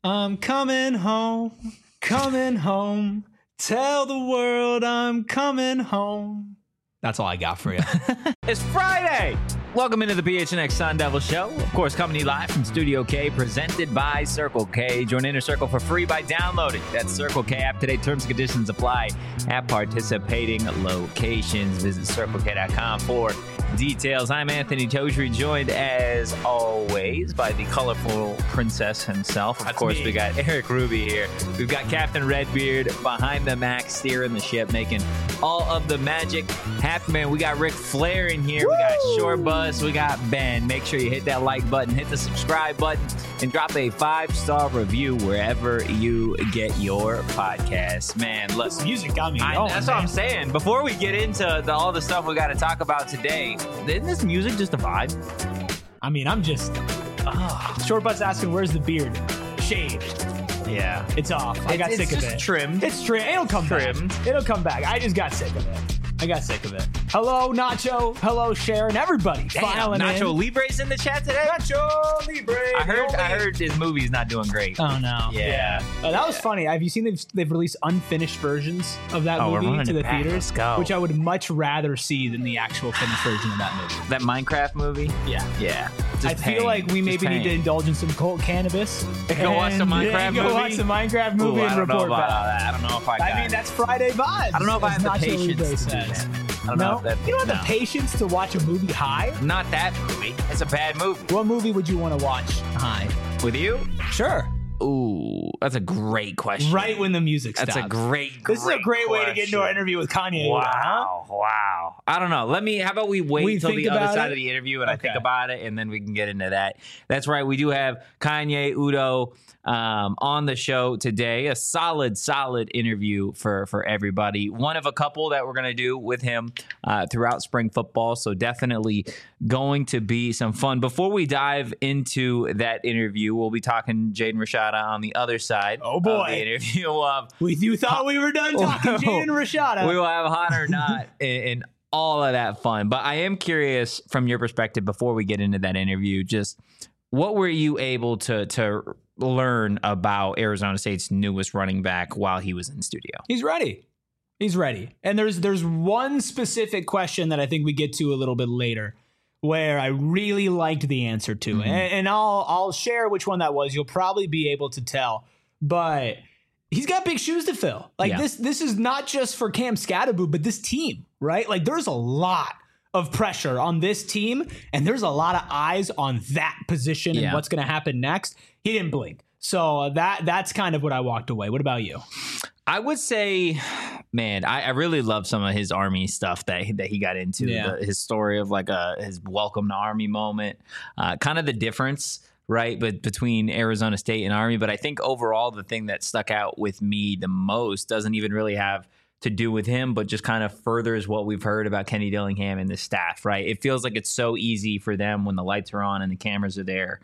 I'm coming home, coming home. Tell the world I'm coming home. That's all I got for you. It's Friday. Welcome into the PHNX Sun Devil Show. Of course, coming to you live from Studio K, presented by Circle K. Join Inner Circle for free by downloading that Circle K app today. Terms and conditions apply at participating locations. Visit CircleK.com for details. I'm Anthony Togri, joined as always by the colorful princess himself. Of course, we got Eric Ruby here. We've got Captain Redbeard behind the Mac, steering the ship, making all of the magic happen. Man, we got Ric Flair in here. Woo! We got Short Bus. We got Ben. Make sure you hit that like button, hit the subscribe button, and drop a 5-star review wherever you get your podcasts. Man, look, This music got me going. that's what I'm saying. Before we get into all the stuff we got to talk about today, isn't this music just a vibe? I mean, I'm just... Short Bus asking, where's the beard? Shaved. Yeah. It's off. I got sick of It's it. just trimmed. It's trimmed. It'll come Trimmed. back. It'll come back. I just got sick of it. Hello, Nacho. Hello, Sharon. Everybody filing Nacho in. Libre's in the chat today. Nacho Libre. I heard his movie's not doing great. Oh, no. Yeah. That was funny. Have you seen they've released unfinished versions of that We're movie running to it the back. theaters? Let's go. Which I would much rather see than the actual finished version of that movie. That Minecraft movie? Yeah. Yeah. I feel like we maybe need to indulge in some cult cannabis. Go watch some Minecraft and movie? Go watch some Minecraft movie and report back. I don't know if I got I mean, that's Friday vibes. I don't know if I have the as Nacho patience Libre to do says. that. I don't know No, if that, you don't have the patience to watch a movie high. Not that movie. It's a bad movie. What movie would you want to watch high? With you? Sure. Ooh, that's a great question. Right when the music stops. That's a great This is a great way to get into our question. interview with Kanye. Wow. I don't know. How about we wait till think the other about side it? of the interview and I think Okay. about it, and then we can get into that. That's right. We do have Kanye Udo on the show today. A solid interview for everybody. One of a couple that we're going to do with him throughout spring football. So definitely going to be some fun. Before we dive into that interview, we'll be talking Jaden Rashada on the other side of boy. the interview. You thought we were done talking Jaden Rashada. We will have hot or not and all of that fun. But I am curious from your perspective before we get into that interview, just what were you able to learn about Arizona State's newest running back while he was in studio? He's ready. And there's one specific question that I think we get to a little bit later where I really liked the answer to it. And I'll share which one that was. You'll probably be able to tell. But he's got big shoes to fill. Like this is not just for Cam Scatterbo, but this team, right? Like there's a lot of pressure on this team, and there's a lot of eyes on that position and what's going to happen next. He didn't blink. So that's kind of what I walked away. What about you? I would say, man, I really love some of his Army stuff that he got into. His story of like his welcome to Army moment, kind of the difference, right, but between Arizona State and Army. But I think overall the thing that stuck out with me the most doesn't even really have to do with him, but just kind of furthers what we've heard about Kenny Dillingham and the staff, right? It feels like it's so easy for them when the lights are on and the cameras are there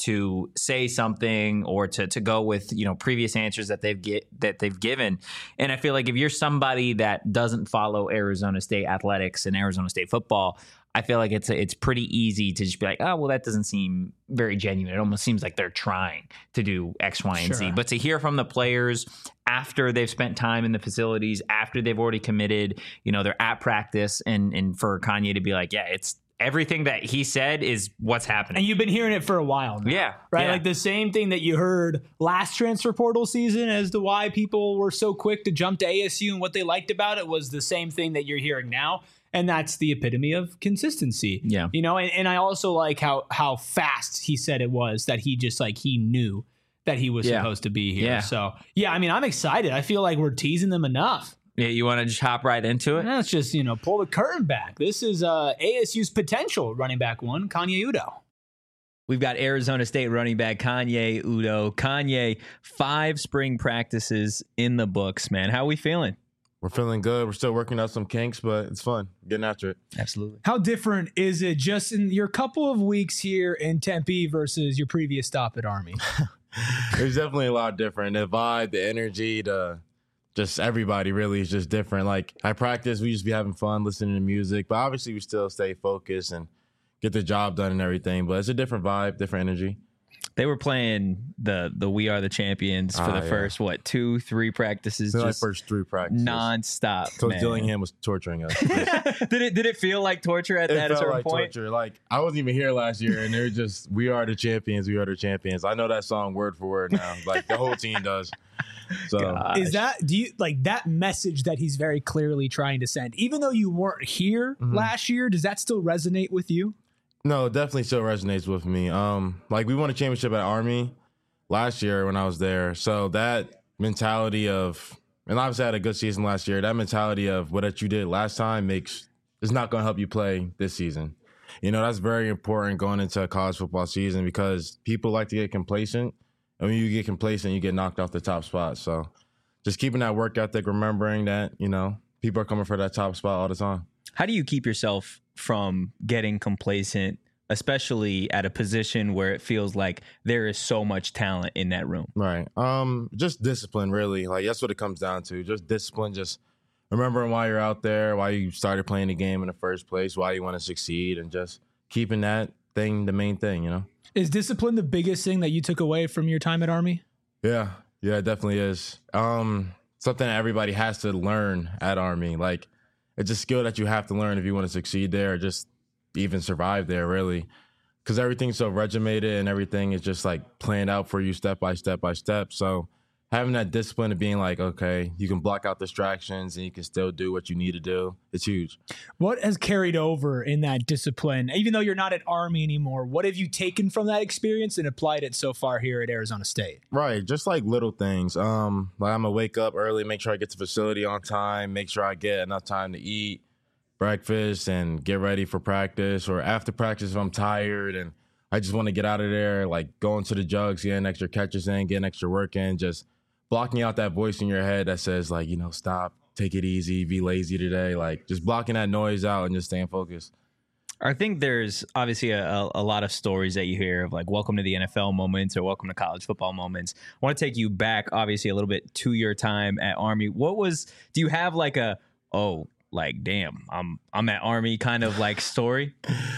to say something or to go with, previous answers that they've given. And I feel like if you're somebody that doesn't follow Arizona State athletics and Arizona State football, I feel like it's pretty easy to just be like, oh, well, that doesn't seem very genuine. It almost seems like they're trying to do X, Y, and Z. But to hear from the players after they've spent time in the facilities, after they've already committed, they're at practice, and for Kanye to be like, yeah, it's everything that he said is what's happening. And you've been hearing it for a while now. Yeah. Right? Yeah. Like the same thing that you heard last transfer portal season as to why people were so quick to jump to ASU and what they liked about it was the same thing that you're hearing now. And that's the epitome of consistency. Yeah. And I also like how fast he said it was that he just he knew that he was supposed to be here. Yeah. So, I'm excited. I feel like we're teasing them enough. Yeah, you want to just hop right into it? Let's just, pull the curtain back. This is ASU's potential running back one, Kanye Udo. We've got Arizona State running back Kanye Udo. Kanye, 5 spring practices in the books, man. How are we feeling? We're feeling good. We're still working out some kinks, but it's fun. Getting after it. Absolutely. How different is it just in your couple of weeks here in Tempe versus your previous stop at Army? There's definitely a lot different. The vibe, the energy, just everybody really is just different. Like I practice, we just be having fun, listening to music, but obviously we still stay focused and get the job done and everything. But it's a different vibe, different energy. They were playing the We Are the Champions for the first 2-3 practices, just like first 3 practices nonstop. Coach Dillingham was torturing us. Did it feel like torture at a certain point? Torture. Like I wasn't even here last year, and they were just We Are the Champions, We Are the Champions. I know that song word for word now. Like the whole team does. So is that, do you like that message that he's very clearly trying to send, even though you weren't here last year? Does that still resonate with you? No, it definitely still resonates with me. Like we won a championship at Army last year when I was there. So that mentality of, and obviously I had a good season last year, that mentality of what you did last time is not going to help you play this season. You know, that's very important going into a college football season because people like to get complacent. And when you get complacent, you get knocked off the top spot. So just keeping that work ethic, remembering that, you know, people are coming for that top spot all the time. How do you keep yourself from getting complacent, especially at a position where it feels like there is so much talent in that room? Right. Just discipline, really. Like that's what it comes down to. Just discipline, just remembering why you're out there, why you started playing the game in the first place, why you want to succeed, and just keeping that thing the main thing, you know? Is discipline the biggest thing that you took away from your time at Army? Yeah, it definitely is. Something that everybody has to learn at Army. Like, it's a skill that you have to learn if you want to succeed there or just even survive there, really. Because everything's so regimented and everything is just like planned out for you step by step by step. So having that discipline of being like, okay, you can block out distractions and you can still do what you need to do, it's huge. What has carried over in that discipline? Even though you're not at Army anymore, what have you taken from that experience and applied it so far here at Arizona State? Right, just like little things. Like I'm gonna wake up early, make sure I get to the facility on time, make sure I get enough time to eat breakfast and get ready for practice, or after practice if I'm tired and I just want to get out of there, like going to the jugs, getting extra catches in, getting extra work in, just blocking out that voice in your head that says, like, you know, stop, take it easy, be lazy today. Like, just blocking that noise out and just staying focused. I think there's obviously a lot of stories that you hear of like welcome to the NFL moments or welcome to college football moments. I want to take you back, obviously, a little bit to your time at Army. Do you have like damn, I'm at Army kind of like story?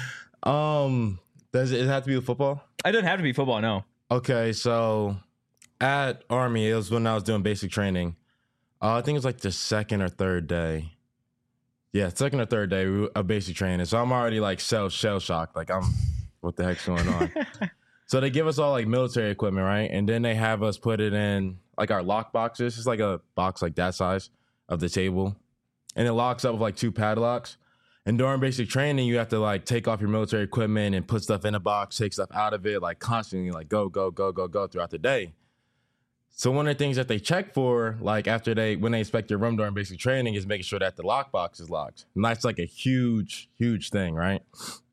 Does it have to be with football? It doesn't have to be football, no. Okay, so at Army, it was when I was doing basic training. I think it was like the second or third day. Yeah, second or third day of basic training. So I'm already like shell shocked. Like what the heck's going on? So they give us all like military equipment, right? And then they have us put it in like our lock boxes. It's like a box like that size of the table. And it locks up with like 2 padlocks. And during basic training, you have to like take off your military equipment and put stuff in a box, take stuff out of it, like constantly like go throughout the day. So one of the things that they check for, like when they inspect your room during basic training, is making sure that the lockbox is locked. And that's like a huge thing, right?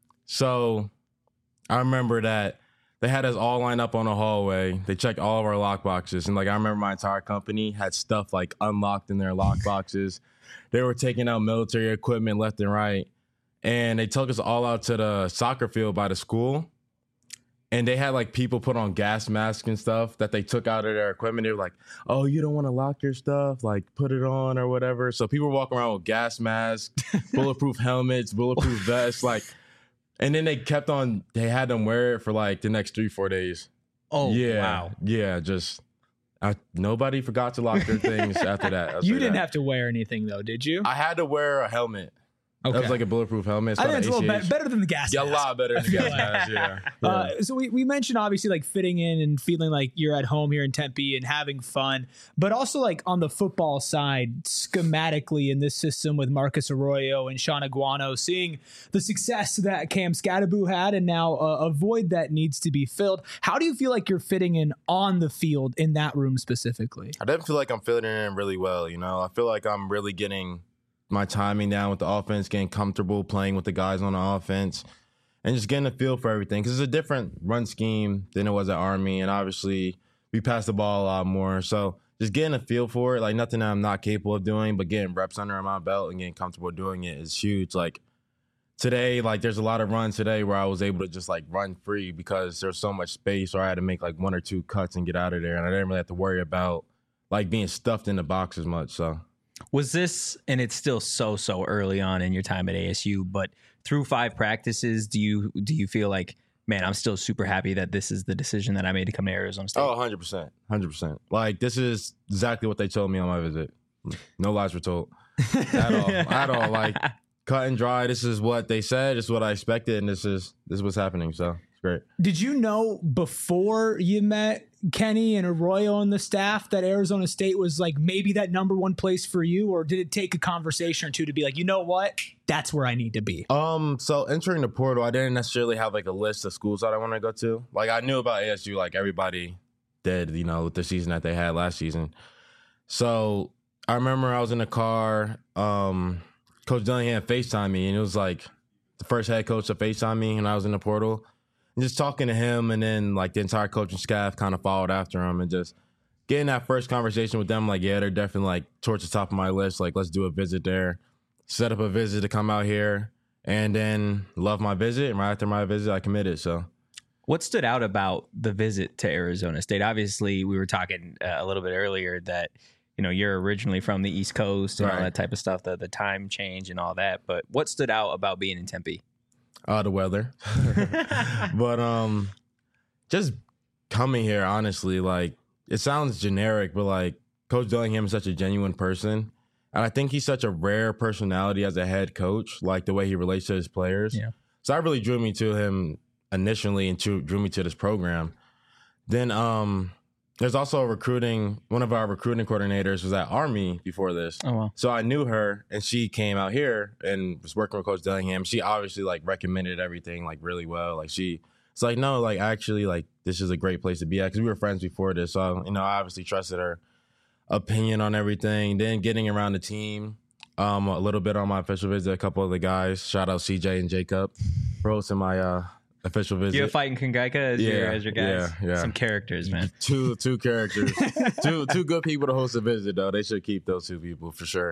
So I remember that they had us all lined up on the hallway. They checked all of our lockboxes. And like I remember my entire company had stuff like unlocked in their lockboxes. They were taking out military equipment left and right. And they took us all out to the soccer field by the school. And they had like people put on gas masks and stuff that they took out of their equipment. They were like, oh, you don't want to lock your stuff? Like put it on or whatever. So people were walking around with gas masks, bulletproof helmets, bulletproof vests. Like, and then they had them wear it for like the next 3-4 days. Oh, yeah, wow. Yeah, just nobody forgot to lock their things after that. You didn't have to wear anything though, did you? I had to wear a helmet. Okay. That was like a bulletproof helmet. I think it's a little better than the gas mask. Yeah, a lot better than the gas mask, yeah. So we mentioned obviously like fitting in and feeling like you're at home here in Tempe and having fun, but also like on the football side, schematically in this system with Marcus Arroyo and Sean Aguano, seeing the success that Cam Scadaboo had and now a void that needs to be filled. How do you feel like you're fitting in on the field in that room specifically? I definitely feel like I'm fitting in really well, you know. I feel like I'm really getting my timing down with the offense, getting comfortable playing with the guys on the offense, and just getting a feel for everything. Because it's a different run scheme than it was at Army, and obviously we pass the ball a lot more. So just getting a feel for it, like nothing that I'm not capable of doing, but getting reps under my belt and getting comfortable doing it is huge. Like today, like there's a lot of runs today where I was able to just like run free because there's so much space, or I had to make like 1 or 2 cuts and get out of there, and I didn't really have to worry about like being stuffed in the box as much. So. Was this, and it's still so early on in your time at ASU, but through 5 practices, do you feel like man, I'm still super happy that this is the decision that I made to come to Arizona State? Oh, 100%. 100%. Like, this is exactly what they told me on my visit. No lies were told. At all. Like, cut and dry. This is what they said. This is what I expected. And this is what's happening. So it's great. Did you know before you met Kenny and Arroyo and the staff that Arizona State was like maybe that number one place for you? Or did it take a conversation or two to be like, you know what? That's where I need to be? So entering the portal, I didn't necessarily have like a list of schools that I want to go to. Like, I knew about ASU, like everybody did, you know, with the season that they had last season. So I remember I was in the car, Coach Dillingham FaceTimed me, and it was like the first head coach to FaceTime me, and I was in the portal. And just talking to him, and then like the entire coaching staff kind of followed after him, and just getting that first conversation with them, like, yeah, they're definitely like towards the top of my list. Like, let's do a visit there, set up a visit to come out here, and then love my visit. And right after my visit, I committed. So, what stood out about the visit to Arizona State? Obviously, we were talking a little bit earlier that, you know, you're originally from the East Coast and all that type of stuff, the time change and all that. But what stood out about being in Tempe? The weather. But just coming here, honestly, like, it sounds generic, but like Coach Dillingham is such a genuine person. And I think he's such a rare personality as a head coach, like the way he relates to his players. Yeah. So that really drew me to him initially and drew me to this program. Then there's also one of our recruiting coordinators was at Army before this. Oh, wow. So I knew her, and she came out here and was working with Coach Dillingham. She obviously like recommended everything like really well. Like, it's like, no, like, actually, like, this is a great place to be at, because we were friends before this. So, you know, I obviously trusted her opinion on everything. Then getting around the team a little bit on my official visit, a couple of the guys, shout out CJ and Jacob for hosting my official visit. You're fighting Kangaika as your guys. Yeah. Some characters, man. Two characters. two good people to host a visit, though. They should keep those two people for sure.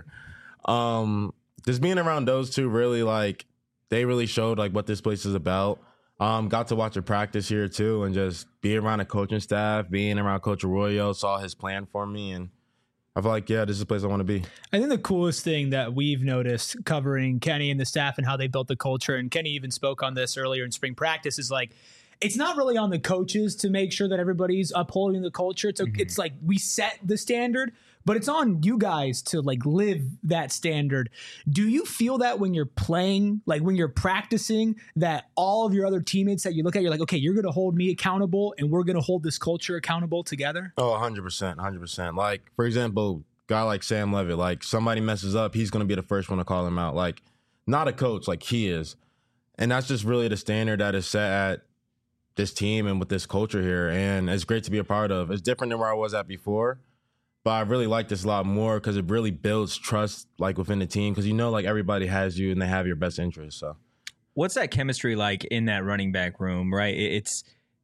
Just being around those two, really, like, they really showed like what this place is about. Got to watch a practice here too, and just being around the coaching staff, being around Coach Arroyo, saw his plan for me, and I feel like, yeah, this is the place I want to be. I think the coolest thing that we've noticed covering Kenny and the staff and how they built the culture, and Kenny even spoke on this earlier in spring practice, is like, it's not really on the coaches to make sure that everybody's upholding the culture. It's like we set the standard, but it's on you guys to like live that standard. Do you feel that when you're playing, like when you're practicing, that all of your other teammates that you look at, you're like, okay, you're going to hold me accountable and we're going to hold this culture accountable together? Oh, 100%, 100%. Like, for example, guy like Sam Levitt, like, somebody messes up, he's going to be the first one to call him out. Like, not a coach, like he is. And that's just really the standard that is set at this team and with this culture here. And it's great to be a part of. It's different than where I was at before, but I really like this a lot more because it really builds trust, like, within the team, because you know, like, everybody has you and they have your best interests. So what's that chemistry like in that running back room, right? It's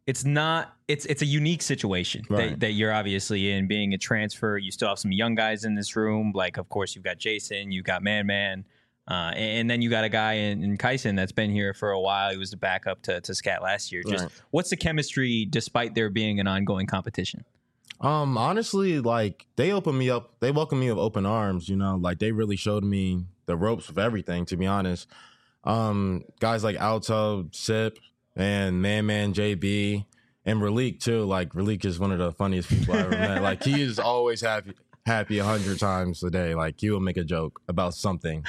a unique situation that you're obviously in, being a transfer. You still have some young guys in this room. Like, of course, you've got Jason, you've got Man. And then you got a guy in Kyson that's been here for a while. He was the backup to Scat last year. Just what's the chemistry despite there being an ongoing competition? Honestly, like, they welcomed me with open arms, you know, like, they really showed me the ropes of everything, to be honest. Guys like Alto, Sip, and Man, JB, and Ralik too. Like, Ralik is one of the funniest people I ever met. Like, he is always happy 100 times a day. Like, he will make a joke about something.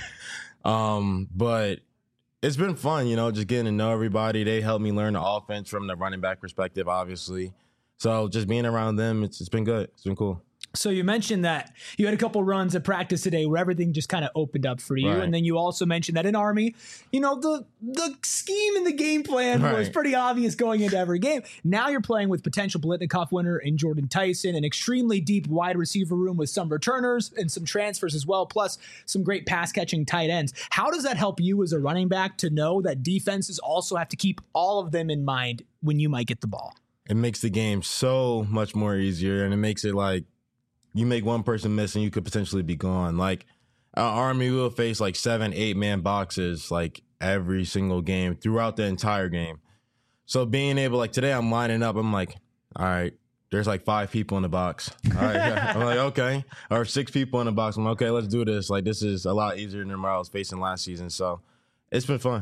But it's been fun, you know, just getting to know everybody. They helped me learn the offense from the running back perspective, obviously. So just being around them, it's been good. It's been cool. So you mentioned that you had a couple runs at practice today where everything just kind of opened up for you. Right. And then you also mentioned that in Army, you know, the scheme and the game plan was pretty obvious going into every game. Now you're playing with potential Biletnikoff winner in Jordan Tyson, an extremely deep wide receiver room with some returners and some transfers as well, plus some great pass catching tight ends. How does that help you as a running back to know that defenses also have to keep all of them in mind when you might get the ball? It makes the game so much more easier, and it makes it like, you make one person miss and you could potentially be gone. Like, our Army will face like 7-8 man boxes like every single game throughout the entire game. So being able, like, today I'm lining up, I'm like, all right, there's like 5 people in the box. All right, I'm like, okay. Or 6 people in the box. I'm like, okay, let's do this. Like, this is a lot easier than what I was facing last season. So it's been fun.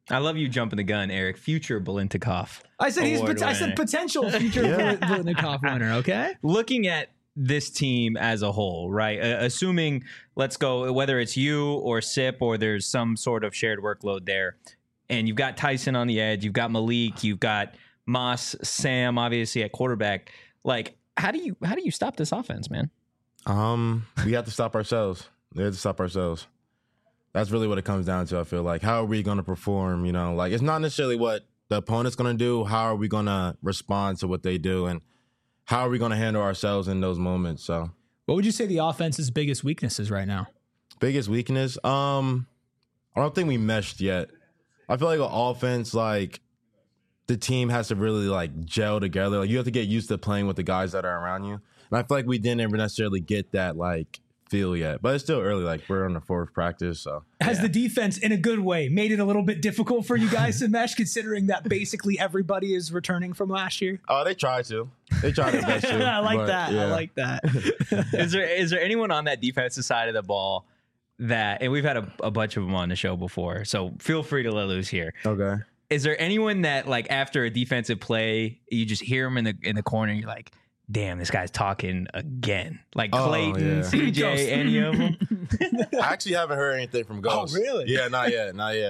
I love you jumping the gun, Eric. Future Biletnikoff. I said potential future Biletnikoff winner. Okay. Looking at this team as a whole, right? Assuming, let's go, whether it's you or Sip or there's some sort of shared workload there, and you've got Tyson on the edge, you've got Malik, you've got Moss, Sam, obviously at quarterback. Like, how do you stop this offense, man? We have to stop ourselves. We have to stop ourselves. That's really what it comes down to, I feel like. How are we going to perform, you know? Like, it's not necessarily what the opponent's going to do. How are we going to respond to what they do? And how are we going to handle ourselves in those moments? So, what would you say the offense's biggest weaknesses right now? Biggest weakness? I don't think we meshed yet. I feel like an offense, like, the team has to really, like, gel together. Like, you have to get used to playing with the guys that are around you. And I feel like we didn't ever necessarily get that, like, feel yet, but it's still early. Like, we're on the fourth practice, so has the defense in a good way made it a little bit difficult for you guys to mesh, considering that basically everybody is returning from last year? Oh, they try their best to. I like that. Is there anyone on that defensive side of the ball that, and we've had a bunch of them on the show before, so feel free to let loose here. Okay. Is there anyone that, like, after a defensive play, you just hear him in the corner and you're like, damn, this guy's talking again? Like Clayton, CJ, any of them? I actually haven't heard anything from Ghost. Oh, really? Yeah, not yet.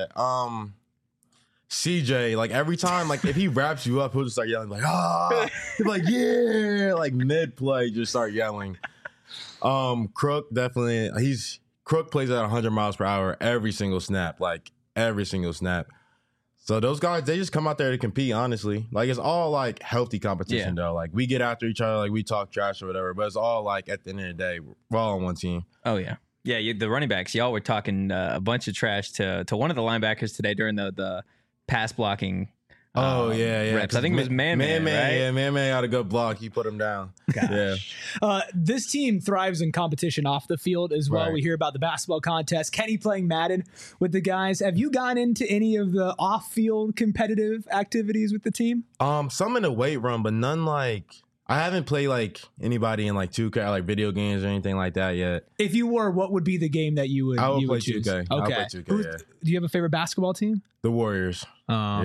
CJ, like, every time, like, if he wraps you up, he'll just start yelling, like, he's like, yeah, like, mid-play, just start yelling. Crook, definitely, Crook plays at 100 miles per hour every single snap, like, every single snap. So those guys, they just come out there to compete, honestly. Like, it's all, like, healthy competition, though. Like, we get after each other, like, we talk trash or whatever, but it's all, like, at the end of the day, we're all on one team. Oh, yeah. Yeah, the running backs, y'all were talking a bunch of trash to one of the linebackers today during the pass blocking reps. I think it was Man, right? Yeah, Man had a good block. He put him down. Gosh. Yeah. This team thrives in competition off the field as well. Right. We hear about the basketball contest. Kenny playing Madden with the guys. Have you gone into any of the off-field competitive activities with the team? Some in the weight room, but none like... I haven't played, like, anybody in, like, 2K, like, video games or anything like that yet. If you were, what would be the game that you would choose? 2K. Okay. I would play 2K, yeah. Do you have a favorite basketball team? The Warriors. Oh,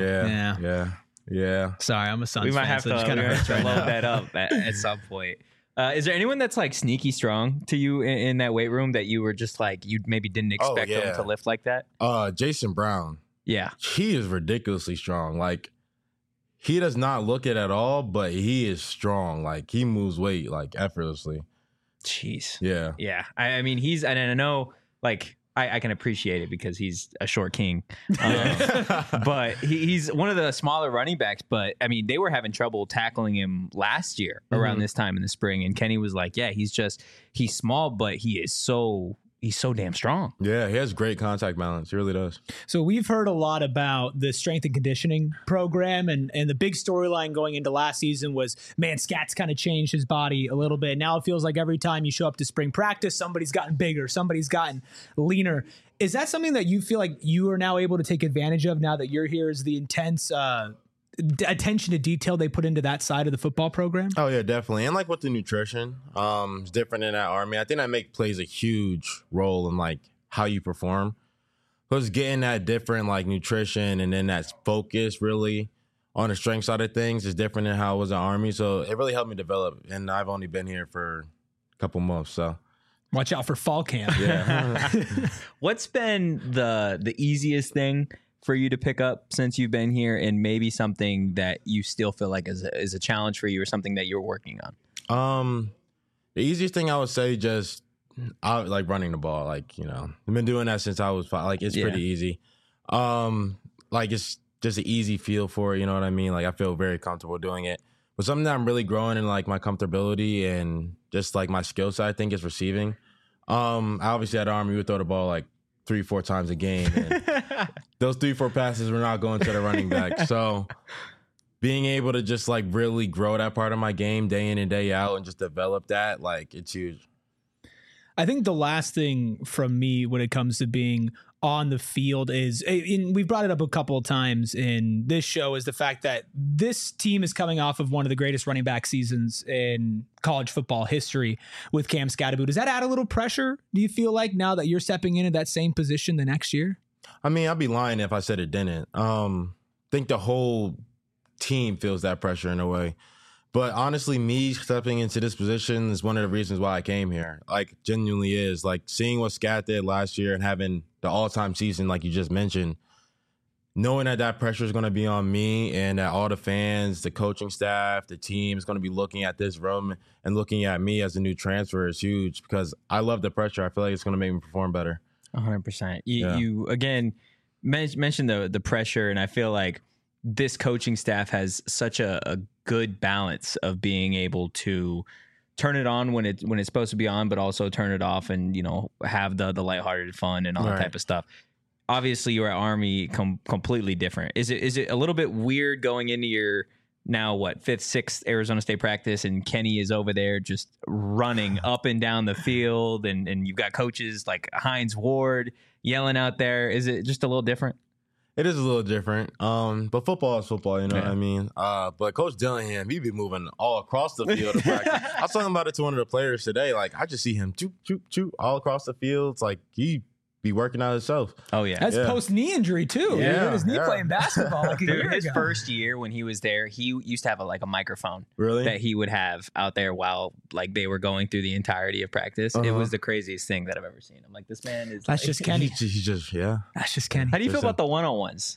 yeah. Sorry, I'm a Suns fan. We might fan, have to load that up at some point. Is there anyone that's, like, sneaky strong to you in that weight room that you were just like, you maybe didn't expect them to lift like that? Jason Brown. Yeah. He is ridiculously strong. Like, he does not look it at all, but he is strong. Like, he moves weight, like, effortlessly. Jeez. Yeah. Yeah. I mean, and I know, like, I can appreciate it because he's a short king. But he's one of the smaller running backs. But, I mean, they were having trouble tackling him last year around this time in the spring. And Kenny was like, yeah, he's small, but he's so damn strong. Yeah, he has great contact balance. He really does. So we've heard a lot about the strength and conditioning program, and the big storyline going into last season was, man, Scat's kind of changed his body a little bit. Now it feels like every time you show up to spring practice, somebody's gotten bigger, somebody's gotten leaner. Is that something that you feel like you are now able to take advantage of now that you're here? Is the intense attention to detail they put into that side of the football program? Oh yeah, definitely. And like with the nutrition, it's different in that Army. I think that plays a huge role in like how you perform. Because getting that different like nutrition and then that focus really on the strength side of things is different than how it was in Army. So it really helped me develop. And I've only been here for a couple months, so watch out for fall camp. Yeah. What's been the easiest thing for you to pick up since you've been here, and maybe something that you still feel like is a challenge for you or something that you're working on? The easiest thing I would say, just like running the ball. Like, you know, I've been doing that since I was 5. Like, it's pretty easy. Like, it's just an easy feel for it. You know what I mean? Like, I feel very comfortable doing it. But something that I'm really growing in, like, my comfortability and just, like, my skill set, I think, is receiving. Obviously, at Army, we would throw the ball, like, 3-4 times a game. And those 3-4 passes were not going to the running back. So being able to just, like, really grow that part of my game day in and day out and just develop that, like, it's huge. I think the last thing from me when it comes to being on the field is, and we've brought it up a couple of times in this show, is the fact that this team is coming off of one of the greatest running back seasons in college football history with Cam Skattebo. Does that add a little pressure, do you feel like, now that you're stepping into that same position the next year? I mean, I'd be lying if I said it didn't. I think the whole team feels that pressure in a way. But honestly, me stepping into this position is one of the reasons why I came here. Like, genuinely is. Like, seeing what Scat did last year and having the all-time season, like you just mentioned, knowing that pressure is going to be on me and that all the fans, the coaching staff, the team is going to be looking at this room and looking at me as a new transfer is huge because I love the pressure. I feel like it's going to make me perform better. 100%. You again, mentioned the pressure, and I feel like this coaching staff has such a good balance of being able to turn it on when it's supposed to be on, but also turn it off and, you know, have the lighthearted fun and all that type of stuff. Obviously, you're at Army completely different. Is it a little bit weird going into your now fifth, sixth Arizona State practice, and Kenny is over there just running up and down the field, and you've got coaches like Hines Ward yelling out there? Is it just a little different? It is a little different, but football is football, you know what I mean? But Coach Dillingham, he be moving all across the field to practice. I was talking about it to one of the players today. Like, I just see him choop, choop, choop all across the field. It's like he be working out himself. Oh, yeah. That's post-knee injury, too. Yeah. He hurt his knee playing basketball like a year His ago. first year when he was there, he used to have a microphone Really? that he would have out there while like they were going through the entirety of practice. It was the craziest thing that I've ever seen. I'm like, this man is That's just Kenny. He just, That's just Kenny. How do you feel about the one-on-ones?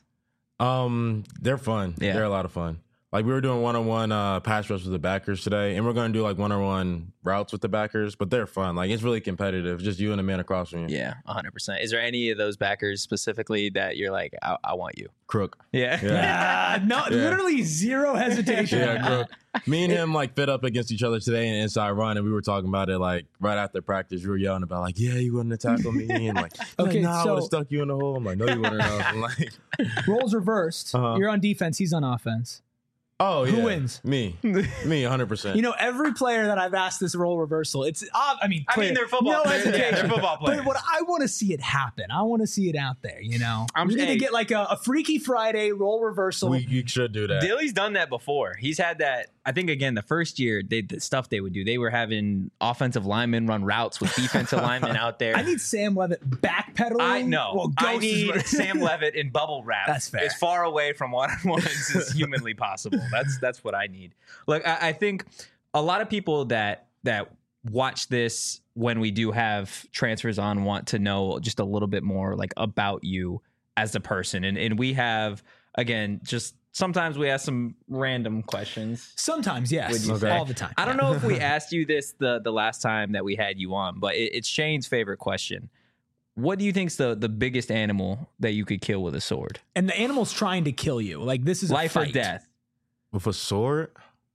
They're fun. Yeah. They're a lot of fun. Like, we were doing one-on-one pass rush with the backers today, and we're going to do like one-on-one routes with the backers, but they're fun. Like, it's really competitive. Just you and the man across from you. Yeah, 100%. Is there any of those backers specifically that you're like, I want you? Crook. Yeah. Literally zero hesitation. Yeah, Crook. Me and him like fit up against each other today in inside run, and we were talking about it like right after practice. We were yelling about like, yeah, you wouldn't have tackled me, and like, Okay, nah, I so- would have stuck you in the hole. I'm like, no, you wouldn't have. I'm like, Roles reversed. You're on defense. He's on offense. oh yeah, Who wins? Me, 100%. You know, every player that I've asked this role reversal, it's, I mean, they're football no players. hesitation. Yeah, they're football players. But what I want to see it happen. I want to see it out there, you know? We need to hey. get like a Freaky Friday role reversal. you should do that. Dilly's done that before. He's had that. I think, again, the first year, the stuff they would do, they were having offensive linemen run routes with defensive linemen out there. I need Sam Levitt backpedaling. I know. Well, I Ghost is need what- Sam Levitt in bubble wrap. That's fair. As far away from one-on-ones as humanly possible. That's what I need. Look, I think a lot of people that watch this when we do have transfers on want to know just a little bit more like about you as a person. And we have, again, just sometimes we ask some random questions. Sometimes, yes. Would you say? All the time. I don't know if we asked you this the last time that we had you on, but it's Shane's favorite question. What do you think's the biggest animal that you could kill with a sword? And the animal's trying to kill you. Like, this is a Life or fight. death? With a sword?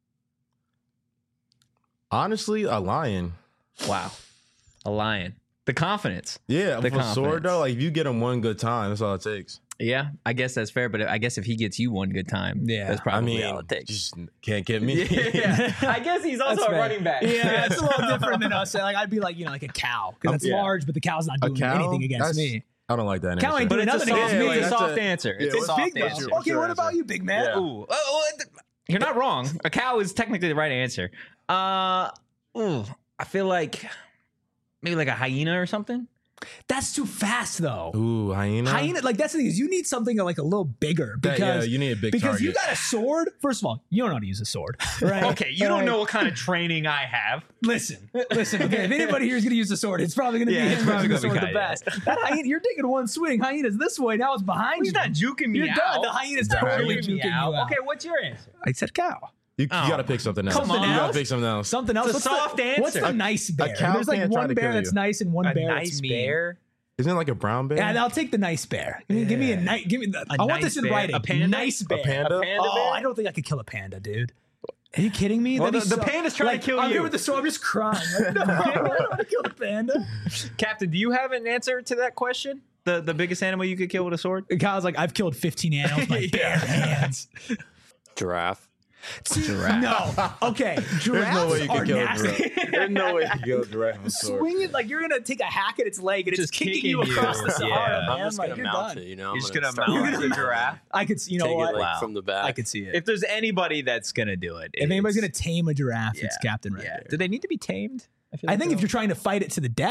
Honestly, a lion. Wow. A lion. The confidence. Yeah, The with a sword confidence. though, like if you get him one good time, that's all it takes. Yeah, I guess that's fair, but I guess if he gets you one good time, Yeah. that's I probably mean, all it takes. just can't get me. Yeah. I guess he's also That's a fair. running back. Yeah, it's a little different than us. Like, I'd be like, you know, like a cow. Because it's Yeah. large, but the cow's not A doing cow? anything against That's- me. I don't like that Cow answer. ain't But doing it's a nothing soft, against me. it's a That's soft a- answer. yeah, It's a It's soft big, though. answer. Okay, what about you, big man? Yeah. Ooh. You're not wrong. A cow is technically the right answer. I feel like maybe like a hyena or something. That's too fast, though. Ooh, hyena. Hyena, like that's the thing is you need something like a little bigger That- because yeah, you need a big because target. you got a sword. First of all, you don't know how to use a sword, right? Okay, you don't know what kind of training I have. Listen. Okay, if anybody here is going to use a sword, it's probably going to Yeah, be it's him probably using the gonna sword be the Kai, best. That hyena, you're taking one swing. Hyena's this way. Now it's behind He's you. not juking me You're out. done. The hyena's totally hyena. juking you out. Okay, what's your answer? I said cow. You got to pick something else. Come on. You got to pick something else. Something else. It's a What's soft the, answer. What's the nice bear? cow There's like can't try one to bear kill that's you. nice and one A bear nice that's mean. bear. Isn't it like a brown bear? Yeah, I'll take the nice bear. Give me a nice. Give me. I want nice this in bear? writing. A panda? Nice bear. A panda? A panda Oh, bear? I don't think I could kill a panda, dude. Are you kidding me? Well, That'd be the panda's trying to kill I'm you. here with the sword. I'm just crying. Like, no, I don't want to kill the panda. Captain, do you have an answer to that question? The biggest animal you could kill with a sword? Kyle's like, I've killed 15 animals with my bare hands. Giraffe. No. Okay. Giraffes no way you are can kill a nasty. giraffe. There's no way you can kill a giraffe with a sword. Swing it like you're gonna take a hack at its leg and it's Just kicking kicking you you. across the Sahara, Yeah. man. I'm just Like, gonna you're mount done. it, you know. You're just gonna start mount walking a around, giraffe? I could see. You know Take what? it like Wow. from the back. I could see it. If there's anybody that's gonna do it, If anybody's it's- gonna tame a giraffe, it's Yeah. Captain Red yeah. Beard. Do they need to be tamed? I think if you're trying to fight it to the death,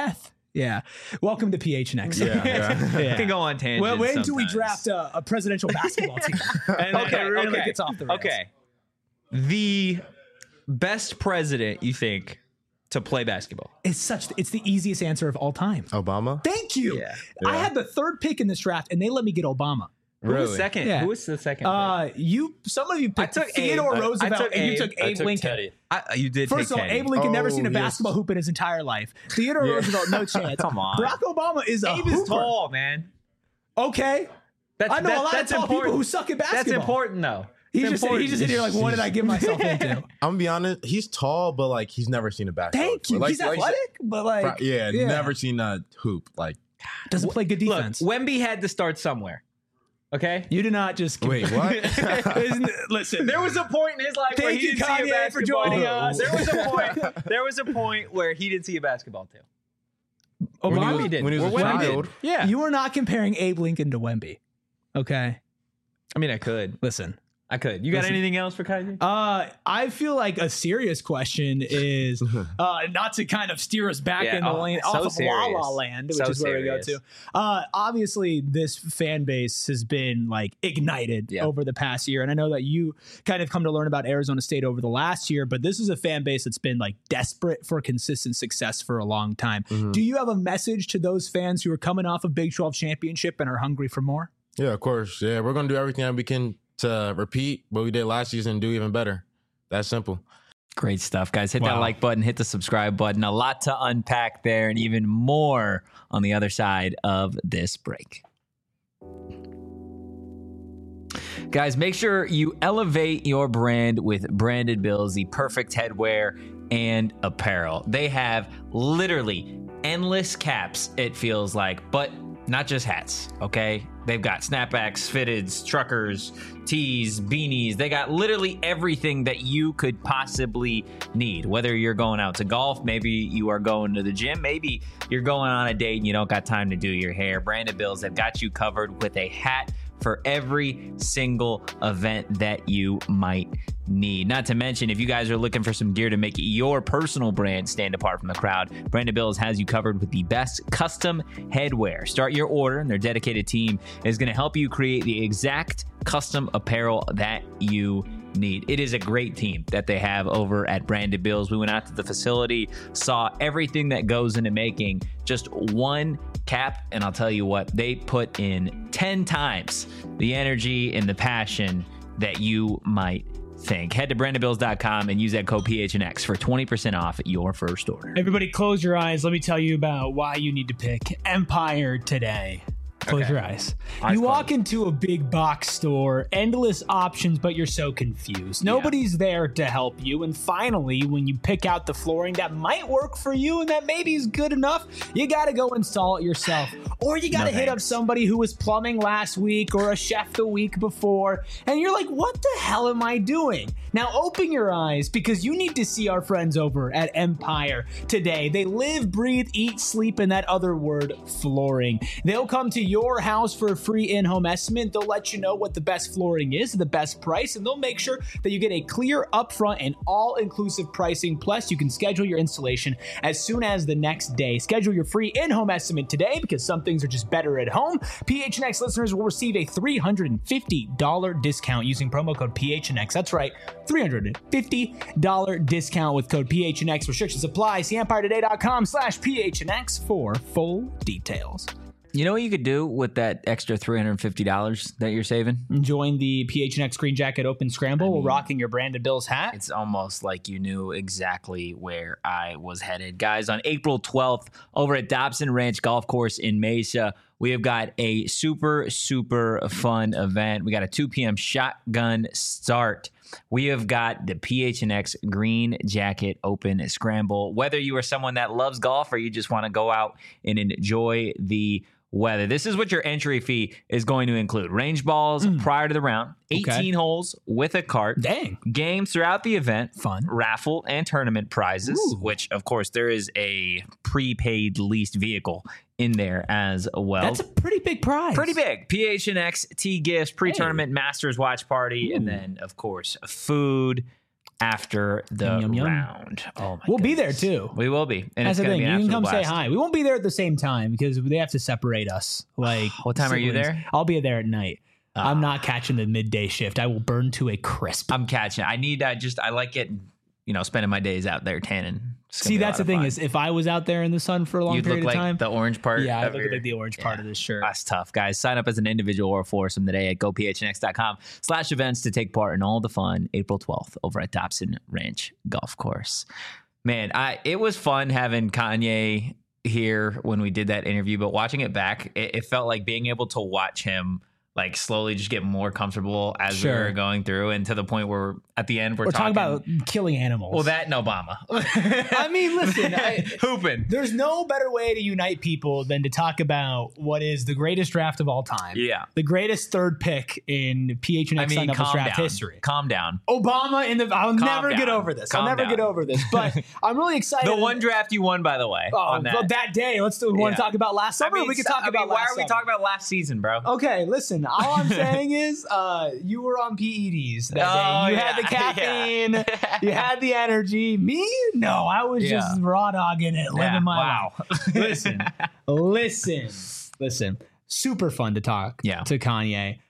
Yeah. Welcome to PHNX. Yeah. You can go on tangents. Well, wait until we sometimes. draft a presidential basketball team. And then it really gets off the rails. Okay. The best president you think to play basketball? It's the easiest answer of all time. Obama? Thank you. Yeah. I had the third pick in this draft, and they let me get Obama. Who was Really? second? Yeah. Who was the second? Some of you picked took Theodore Abe. Roosevelt, I took and you Abe. took I Abe took Lincoln. Teddy. You did First take of all, Teddy. Abe Lincoln never seen a yes. basketball hoop in his entire life. Theodore Roosevelt, no chance. Come on. Barack Obama is a Abe hooper. is tall, man. Okay. I know a lot of tall people who suck at basketball. That's important, though. He's just in here like, what did I get myself into? I'm gonna be honest. He's tall, but like he's never seen a basketball. Thank you. before. He's athletic, but like, never seen a hoop. Like, doesn't play good Look, defense. Wemby had to start somewhere. Okay? You did not just wait, what? Listen. There was a point in his life where Thank he you, didn't see a Kanye, basketball. for joining us. There was a point where he didn't see a basketball too. Obama Wemby did. when he was a Or Wemby did. child. Yeah. You are not comparing Abe Lincoln to Wemby. Okay. I mean, I could. Listen. I could. You got Listen. anything else for Kaiji? I feel like a serious question is not to kind of steer us back Yeah, in the lane so off of La La serious. Land, which So is where we go serious. to. Obviously, this fan base has been like ignited Yeah. over the past year, and I know that you kind of come to learn about Arizona State over the last year, but this is a fan base that's been like desperate for consistent success for a long time. Do you have a message to those fans who are coming off a Big 12 championship and are hungry for more? Yeah, of course. Yeah, we're gonna do everything that we can to repeat what we did last season and do even better. That's simple. Great stuff, guys. Hit that Wow. like button, hit the subscribe button. A lot to unpack there and even more on the other side of this break. Guys, make sure you elevate your brand with Branded Bills, the perfect headwear and apparel. They have literally endless caps, it feels like, but not just hats, okay? They've got snapbacks, fitteds, truckers, tees, beanies. They got literally everything that you could possibly need. Whether you're going out to golf, maybe you are going to the gym, maybe you're going on a date and you don't got time to do your hair. Branded Bills have got you covered with a hat for every single event that you might need. Not to mention, if you guys are looking for some gear to make your personal brand stand apart from the crowd, Branded Bills has you covered with the best custom headwear. Start your order, and their dedicated team is going to help you create the exact custom apparel that you need. It is a great team that they have over at Branded Bills. We went out to the facility, saw everything that goes into making just one cap, and I'll tell you what, they put in 10 times the energy and the passion that you might think. Head to brandedbills.com and use that code PHNX for 20% off your first order. Everybody close your eyes. Let me tell you about why you need to pick Empire today. Close your eyes. You walk into a big box store, endless options, but you're so confused. Nobody's there to help you. And finally, when you pick out the flooring that might work for you and that maybe is good enough, you got to go install it yourself. Or you got to hit up somebody who was plumbing last week or a chef the week before. And you're like, what the hell am I doing? Now open your eyes, because you need to see our friends over at Empire today. They live, breathe, eat, sleep in that other word, flooring. They'll come to your house for a free in-home estimate. They'll let you know what the best flooring is, the best price, and they'll make sure that you get a clear, upfront, and all-inclusive pricing. Plus, you can schedule your installation as soon as the next day. Schedule your free in-home estimate today, because some things are just better at home. PHNX listeners will receive a $350 discount using promo code PHNX. That's right, $350 discount with code PHNX. Restrictions apply. See EmpireToday.com/PHNX for full details. You know what you could do with that extra $350 that you're saving? Join the PHNX Green Jacket Open Scramble while rocking your Branded Bills hat. It's almost like you knew exactly where I was headed. Guys, on April 12th, over at Dobson Ranch Golf Course in Mesa, we have got a super, super fun event. We got a 2 p.m. shotgun start. We have got the PHNX Green Jacket Open Scramble. Whether you are someone that loves golf or you just want to go out and enjoy the weather, this is what your entry fee is going to include. Range balls prior to the round, 18 holes with a cart. Dang. Games throughout the event. Fun. Raffle and tournament prizes, which, of course, there is a prepaid leased vehicle in there as well. That's a pretty big prize. Pretty big. PHNX, T gifts, pre-tournament Masters watch party, and then, of course, food, after the Yum, yum. round. Oh my We'll be there goodness. too. We will be. And That's it's the going to thing. be an You can come absolute say blast. hi. We won't be there at the same time because they have to separate us. Like, What time are you siblings. there? I'll be there at night. I'm not catching the midday shift. I will burn to a crisp. I'm catching. I like getting, spending my days out there tanning. It's gonna See, be a that's lot the of thing fun. is, if I was out there in the sun for a long You'd period look of like time, the orange part. yeah, I of look your- like the orange part of this shirt. That's tough, guys. Sign up as an individual or a foursome today at gophnx.com/events to take part in all the fun April 12th over at Dobson Ranch Golf Course. Man, it was fun having Kanye here when we did that interview, but watching it back, it felt like being able to watch him like slowly just get more comfortable as we Sure. were going through, and to the point where at the end We're talking about killing animals. well, that and Obama. I mean, listen, Hooping. there's no better way to unite people than to talk about what is the greatest draft of all time. Yeah. The greatest third pick in PHNX Sun Devils draft history. Calm down. Obama in the. I'll never get down. over this. Calm I'll never down. get over this. But I'm really excited. The one draft you won, by the way. Oh, on well, that day. Let's do. We want Yeah. to talk about last summer. We can talk about. Why last are we summer. talking about last season, bro? Okay, listen. All I'm saying is, you were on PEDs that day. You had the caffeine. You had the energy. Me, no. I was just raw dogging it, living my life. Listen. Super fun to talk to Kanye.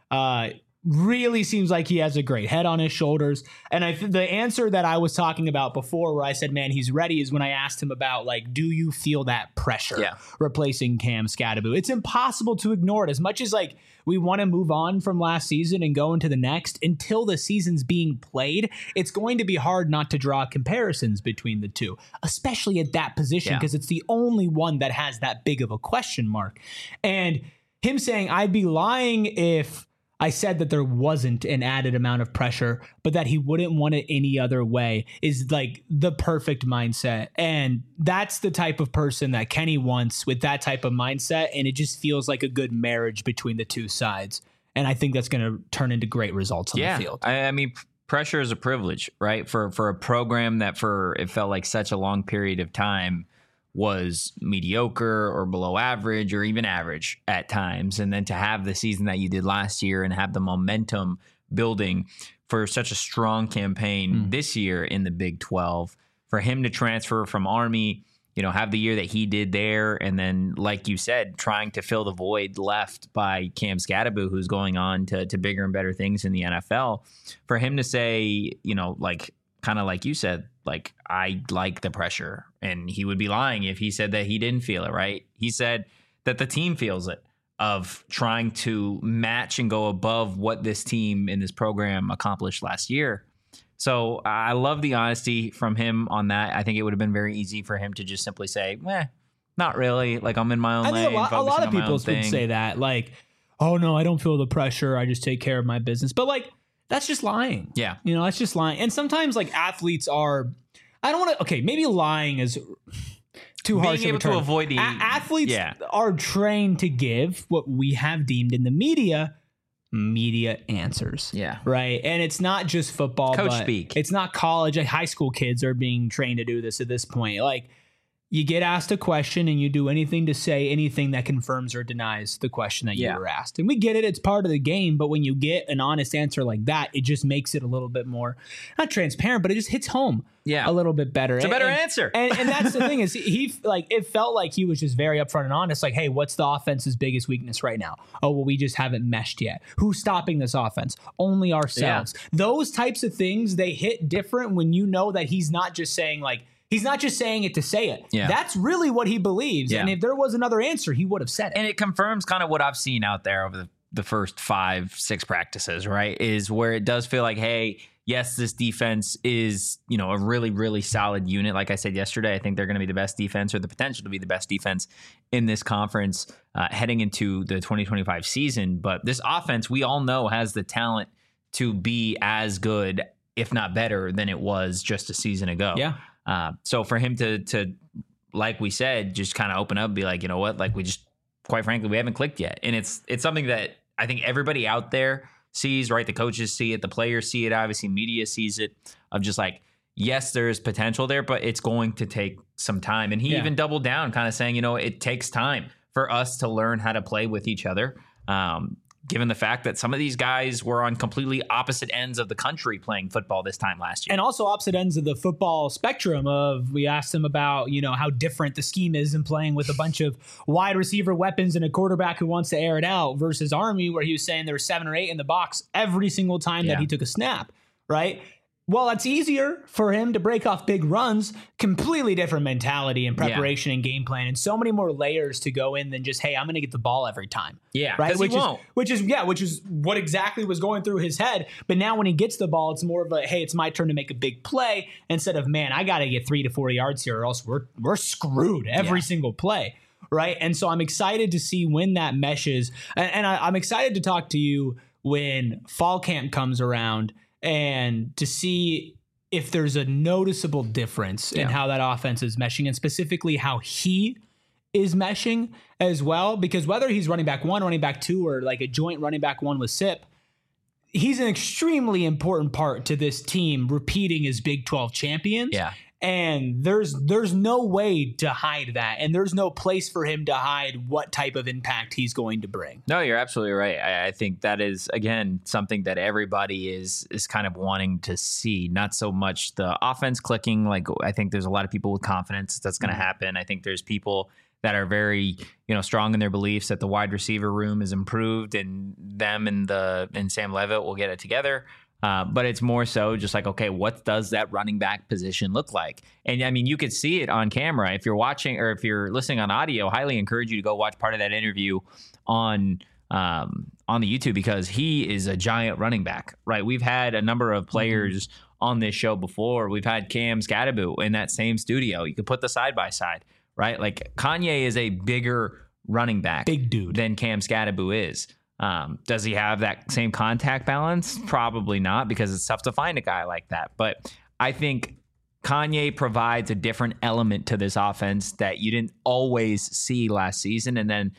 Really seems like he has a great head on his shoulders. And the answer that I was talking about before, where I said, man, he's ready, is when I asked him about, like, do you feel that pressure replacing Cam Scatterbo? It's impossible to ignore it. As much as, like, we want to move on from last season and go into the next, until the season's being played, it's going to be hard not to draw comparisons between the two, especially at that position, because it's the only one that has that big of a question mark. And him saying, I'd be lying if I said that there wasn't an added amount of pressure, but that he wouldn't want it any other way, is like the perfect mindset. And that's the type of person that Kenny wants with that type of mindset. And it just feels like a good marriage between the two sides. And I think that's going to turn into great results on the field. I mean, pressure is a privilege, right? For a program that it felt like such a long period of time was mediocre or below average or even average at times. And then to have the season that you did last year and have the momentum building for such a strong campaign this year in the Big 12, for him to transfer from Army, have the year that he did there. And then, like you said, trying to fill the void left by Cam Scatterbo, who's going on to bigger and better things in the NFL. For him to say, kind of like you said, like, I like the pressure, and he would be lying if he said that he didn't feel it, right? He said that the team feels it, of trying to match and go above what this team in this program accomplished last year. So I love the honesty from him on that. I think it would have been very easy for him to just simply say, not really. Like, I'm in my own lane. I think a lot of people would say that, like, oh no, I don't feel the pressure. I just take care of my business. But, like, that's just lying. Yeah. That's just lying. And sometimes, like, athletes are, I don't want to, okay, maybe lying is too harsh. Being able to avoid the athletes are trained to give what we have deemed in the media answers. Yeah. Right. And it's not just football. Coach but speak. It's not college. Like, high school kids are being trained to do this at this point. Like, you get asked a question and you do anything to say anything that confirms or denies the question that you were asked. And we get it. It's part of the game. But when you get an honest answer like that, it just makes it a little bit more, not transparent, but it just hits home a little bit better. It's a better answer. And that's the thing is he like, it felt like he was just very upfront and honest. Like, hey, what's the offense's biggest weakness right now? Oh, well, we just haven't meshed yet. Who's stopping this offense? Only ourselves. Yeah. Those types of things, they hit different when you know that he's not just saying, like, he's not just saying it to say it. Yeah. That's really what he believes. Yeah. And if there was another answer, he would have said it. And it confirms kind of what I've seen out there over the first 5-6 practices, right? Is where it does feel like, hey, yes, this defense is, a really, really solid unit. Like I said yesterday, I think they're going to be the best defense, or the potential to be the best defense in this conference heading into the 2025 season. But this offense, we all know, has the talent to be as good, if not better, than it was just a season ago. Yeah. So for him to, like we said, just kind of open up and be like, you know what, like, we just, quite frankly, we haven't clicked yet. And it's something that I think everybody out there sees, right? The coaches see it, the players see it, obviously media sees it, of just like, yes, there's potential there, but it's going to take some time. And he even doubled down, kind of saying, it takes time for us to learn how to play with each other. given the fact that some of these guys were on completely opposite ends of the country playing football this time last year. And also opposite ends of the football spectrum we asked him about, how different the scheme is in playing with a bunch of wide receiver weapons and a quarterback who wants to air it out versus Army, where he was saying there were 7 or 8 in the box every single time that he took a snap, right? Well, that's easier for him to break off big runs, completely different mentality and preparation and game plan, and so many more layers to go in than just, hey, I'm going to get the ball every time. Yeah, right. Which is what exactly was going through his head. But now when he gets the ball, it's more of a, hey, it's my turn to make a big play instead of, man, I got to get 3 to 4 yards here or else we're screwed every single play. Right. And so I'm excited to see when that meshes. And I'm excited to talk to you when fall camp comes around and to see if there's a noticeable difference in how that offense is meshing and specifically how he is meshing as well. Because whether he's running back 1, running back 2, or like a joint running back 1 with Sip, he's an extremely important part to this team repeating as Big 12 champions. Yeah. And there's no way to hide that. And there's no place for him to hide what type of impact he's going to bring. No, you're absolutely right. I think that is, again, something that everybody is kind of wanting to see. Not so much the offense clicking. Like, I think there's a lot of people with confidence that's going to happen. I think there's people that are very, strong in their beliefs that the wide receiver room is improved and them and Sam Leavitt will get it together. But it's more so just like, okay, what does that running back position look like? And I mean, you could see it on camera. If you're watching or if you're listening on audio, highly encourage you to go watch part of that interview on the YouTube because he is a giant running back, right? We've had a number of players on this show before. We've had Cam Scadaboo in that same studio. You could put the side by side, right? Like Kanye is a bigger running back, big dude, than Cam Scadaboo is. Does he have that same contact balance? Probably not, because it's tough to find a guy like that. But I think Kanye provides a different element to this offense that you didn't always see last season. And then,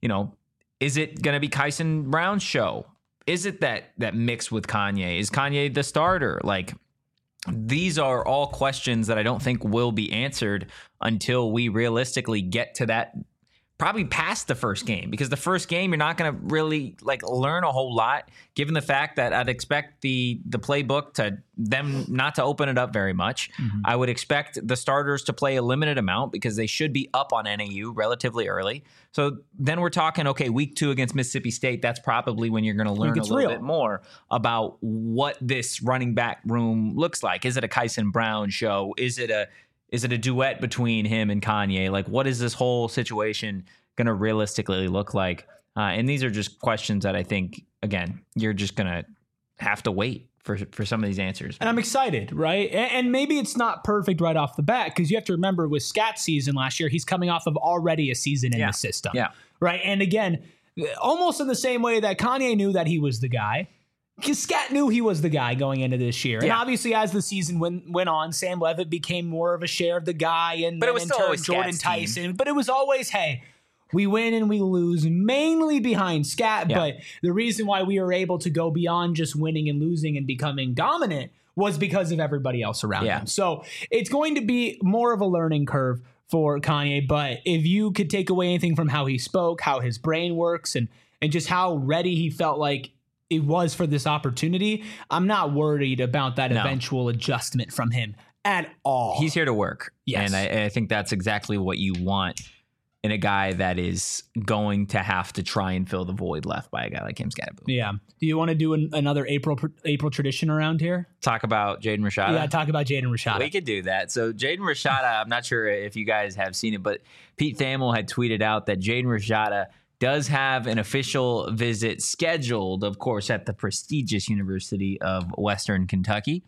is it going to be Kyson Brown's show? Is it that mix with Kanye? Is Kanye the starter? Like, these are all questions that I don't think will be answered until we realistically get to that, probably past the first game, because the first game, you're not going to really learn a whole lot, given the fact that I'd expect the playbook to them not to open it up very much. I would expect the starters to play a limited amount because they should be up on NAU relatively early. So then we're talking, okay, week 2 against Mississippi State, that's probably when you're going to learn a little bit more about what this running back room looks like. Is it a Kyson Brown show? Is it a duet between him and Kanye? Like, what is this whole situation going to realistically look like? And these are just questions that I think, again, you're just going to have to wait for some of these answers. And I'm excited, right? And maybe it's not perfect right off the bat, because you have to remember with Scat's season last year, he's coming off of already a season in the system. Yeah. Right. And again, almost in the same way that Kanye knew that he was the guy, because Scat knew he was the guy going into this year. And obviously, as the season went on, Sam Leavitt became more of a share of the guy, and but it was still always Jordan Scat's Tyson. team. But it was always, hey, we win and we lose, mainly behind Scat. But the reason why we were able to go beyond just winning and losing and becoming dominant was because of everybody else around him. So it's going to be more of a learning curve for Kanye. But if you could take away anything from how he spoke, how his brain works, and just how ready he felt like it was for this opportunity, I'm not worried about that eventual adjustment from him at all. He's here to work. Yes. And I think that's exactly what you want in a guy that is going to have to try and fill the void left by a guy like Cam Scadaboo. Yeah. Do you want to do another April tradition around here? Talk about Jaden Rashada? Yeah, talk about Jaden Rashada. We could do that. So Jaden Rashada, I'm not sure if you guys have seen it, but Pete Thamel had tweeted out that Jaden Rashada does have an official visit scheduled, of course, at the prestigious University of Western Kentucky.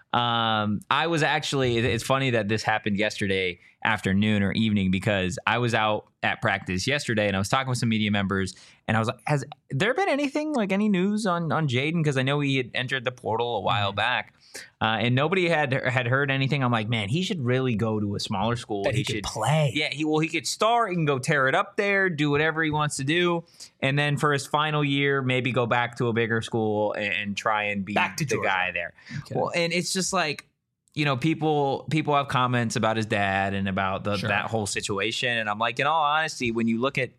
I was actually, it's funny that this happened yesterday afternoon or evening, because I was out at practice yesterday and I was talking with some media members, and I was like, has there been anything, like any news on Jaden? Because I know he had entered the portal a while back, and nobody had heard anything. I'm like, man, he should really go to a smaller school. That he should play. Yeah, he could start. He can go tear it up there, do whatever he wants to do, and then for his final year, maybe go back to a bigger school and try and be the guy there. Okay. Well, and it's just like, people have comments about his dad and about that whole situation, and I'm like, in all honesty, when you look at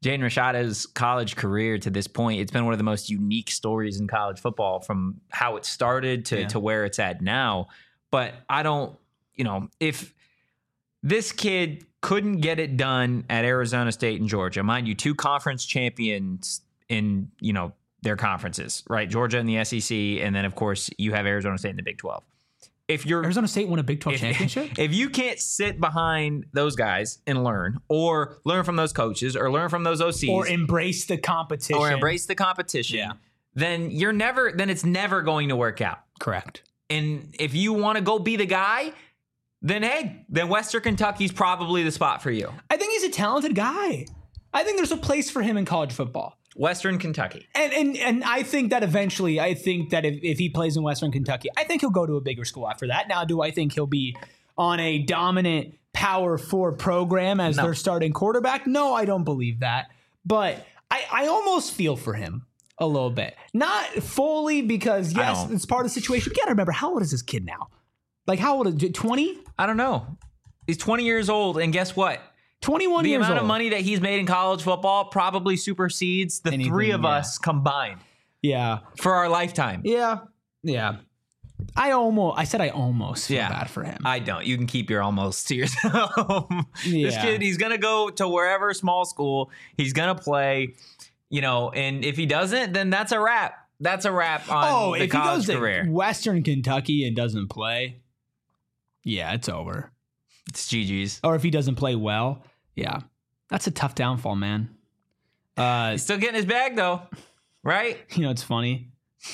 Jaden Rashada's college career to this point, it's been one of the most unique stories in college football from how it started to where it's at now. But I don't, if this kid couldn't get it done at Arizona State and Georgia, mind you, 2 conference champions in, their conferences, right? Georgia in the SEC, and then, of course, you have Arizona State in the Big 12. If Arizona State won a Big 12 championship? If you can't sit behind those guys and learn, or learn from those coaches, or learn from those OCs, or embrace the competition, then it's never going to work out. Correct. And if you want to go be the guy, then Western Kentucky's probably the spot for you. I think he's a talented guy. I think there's a place for him in college football. Western Kentucky. And I think that eventually, if he plays in Western Kentucky, I think he'll go to a bigger school after that. Now, do I think he'll be on a dominant Power 4 program as their starting quarterback? No, I don't believe that. But I almost feel for him a little bit. Not fully because, yes, it's part of the situation. You got to remember, how old is this kid now? Like, how old is it? 20? I don't know. He's 20 years old, and guess what? 21 years old. The amount of money that he's made in college football probably supersedes the three of us combined. Yeah. For our lifetime. Yeah. Yeah. I almost feel bad for him. I don't. You can keep your almost to yourself. This kid, he's going to go to wherever small school. He's going to play, and if he doesn't, then that's a wrap. That's a wrap on the college career. If he goes to Western Kentucky and doesn't play, it's over. It's GG's. Or if he doesn't play well, that's a tough downfall, man. He's still getting his bag, though, right? It's funny.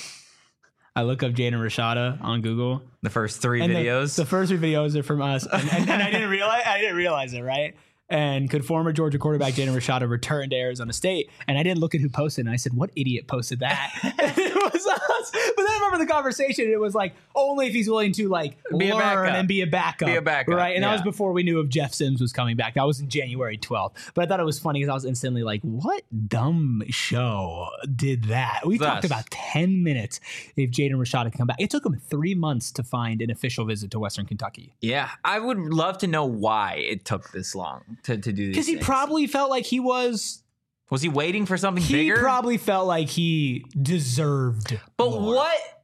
I look up Jaden Rashada on Google. The first 3 videos. The first 3 videos are from us, and I didn't realize it, right? And could former Georgia quarterback Jaden Rashada return to Arizona State? And I didn't look at who posted it. And I said, what idiot posted that? And it was us. But then I remember the conversation. It was like, only if he's willing to learn and be a backup. Right? And that was before we knew if Jeff Sims was coming back. That was in January 12th. But I thought it was funny because I was instantly like, what dumb show did that? We talked about 10 minutes if Jaden Rashada can come back. It took him 3 months to find an official visit to Western Kentucky. Yeah. I would love to know why it took this long to do this. Because he probably felt like he was... Was he waiting for something bigger? He probably felt like he deserved more.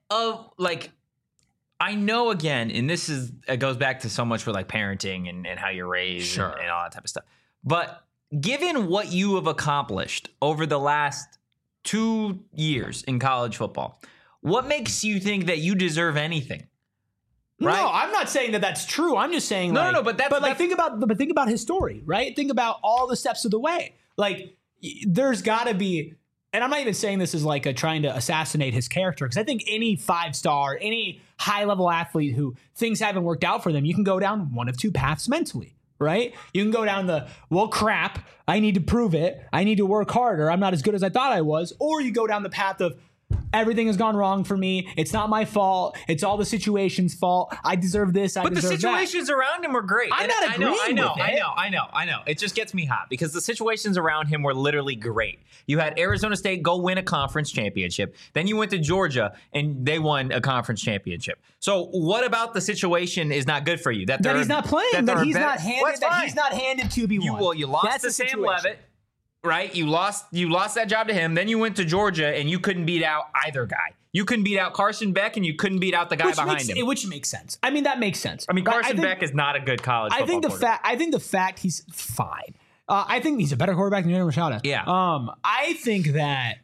I know again, and it goes back to so much for parenting and how you're raised and all that type of stuff. But given what you have accomplished over the last 2 years in college football, what makes you think that you deserve anything? Right? No, I'm not saying that that's true. I'm just saying think about his story, right? Think about all the steps of the way. There's got to be, and I'm not even saying this is trying to assassinate his character, because I think any 5-star, any high-level athlete who things haven't worked out for them, you can go down one of 2 paths mentally, right? You can go down the, well, crap, I need to prove it. I need to work harder. I'm not as good as I thought I was. Or you go down the path of, everything has gone wrong for me. It's not my fault. It's all the situation's fault. I deserve this. I deserve that. But the situations around him were great. I'm not agreeing with it. I know. It just gets me hot because the situations around him were literally great. You had Arizona State go win a conference championship. Then you went to Georgia and they won a conference championship. So what about the situation is not good for you? That he's not playing. That he's not handed QB1. You lost to Sam Leavitt. Right, you lost that job to him. Then you went to Georgia, and you couldn't beat out either guy. You couldn't beat out Carson Beck, and you couldn't beat out the guy behind him. Which makes sense. I mean, that makes sense. I mean, Carson Beck is not a good college football quarterback. I think the fact he's fine. I think he's a better quarterback than Jaden Rashada. Yeah. I think that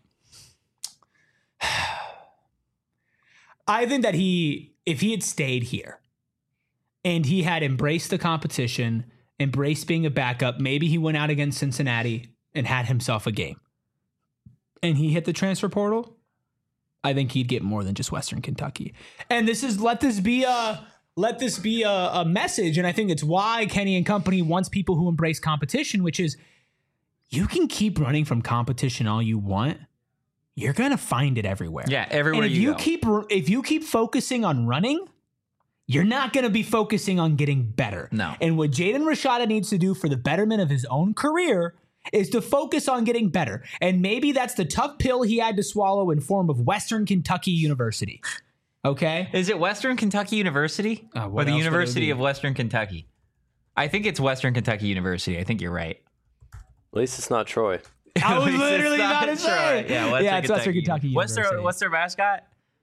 if he had stayed here and he had embraced the competition, embraced being a backup, maybe he went out against Cincinnati and had himself a game, and he hit the transfer portal, I think he'd get more than just Western Kentucky. And let this be a message. And I think it's why Kenny and company wants people who embrace competition, which is, you can keep running from competition all you want. You're going to find it everywhere. Yeah. Everywhere and if you keep focusing on running, you're not going to be focusing on getting better. No. And what Jaden Rashada needs to do for the betterment of his own career is to focus on getting better. And maybe that's the tough pill he had to swallow in form of Western Kentucky University. Okay? Is it Western Kentucky University? Or the University of Western Kentucky? I think it's Western Kentucky University. I think you're right. At least it's not Troy. I was At least literally it's about to say. Detroit. Yeah, it's Western Kentucky University. What's their mascot?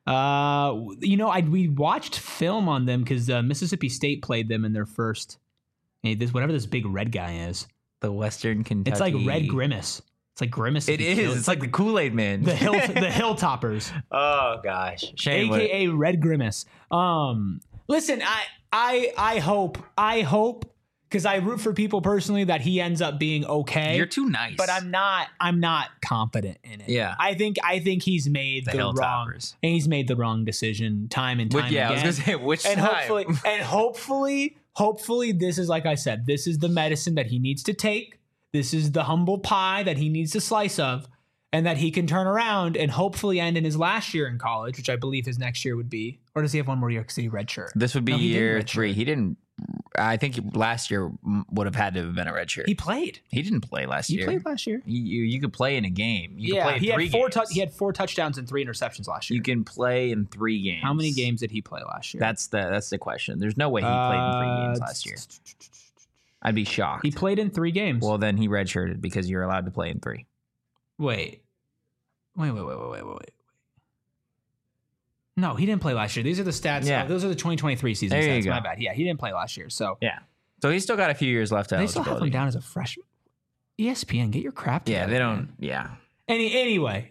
We watched film on them because Mississippi State played them in their first. Whatever this big red guy is. The Western Kentucky. It's like Red Grimace. It's like Grimace. It is. It's like the Kool-Aid Man. The Hilltoppers. Oh gosh. Shane, AKA Red Grimace. Listen, I hope because I root for people personally that he ends up being okay. You're too nice. But I'm not confident in it. Yeah. I think he's made the wrong decision time and time again. I was gonna say which and time. hopefully this is, like I said, this is the medicine that he needs to take. This is the humble pie that he needs to slice of, and that he can turn around and hopefully end in his last year in college, which I believe his next year would be. Or does he have one more year because he redshirt? This would be year 3. He didn't. I think last year would have had to have been a redshirt. He played. He didn't play last year. He played last year. You could play in a game. You could play in he 3 had 4 games. he had 4 touchdowns and 3 interceptions last year. You can play in 3 games. How many games did he play last year? That's the question. There's no way he played in 3 games last year. I'd be shocked. He played in 3 games. Well, then he redshirted because you're allowed to play in 3. Wait. No, he didn't play last year. These are the stats. Yeah. Those are the 2023 season There you stats. go. My bad. Yeah, he didn't play last year. So Yeah. So he's still got a few years left. they still have him down as a freshman. ESPN, get your crap together. Yeah, they don't. Man. Yeah. Anyway.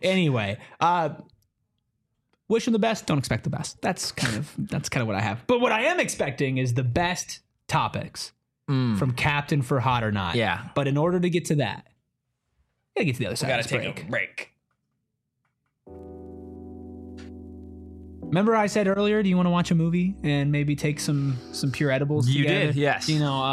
Wish him the best. Don't expect the best. That's kind of what I have. But what I am expecting is the best topics from Captain for Hot or Not. Yeah. But in order to get to that, gotta get to the other side. Got of to this take break. a break. Remember I said earlier, do you want to watch a movie and maybe take some pure edibles You together? did, yes.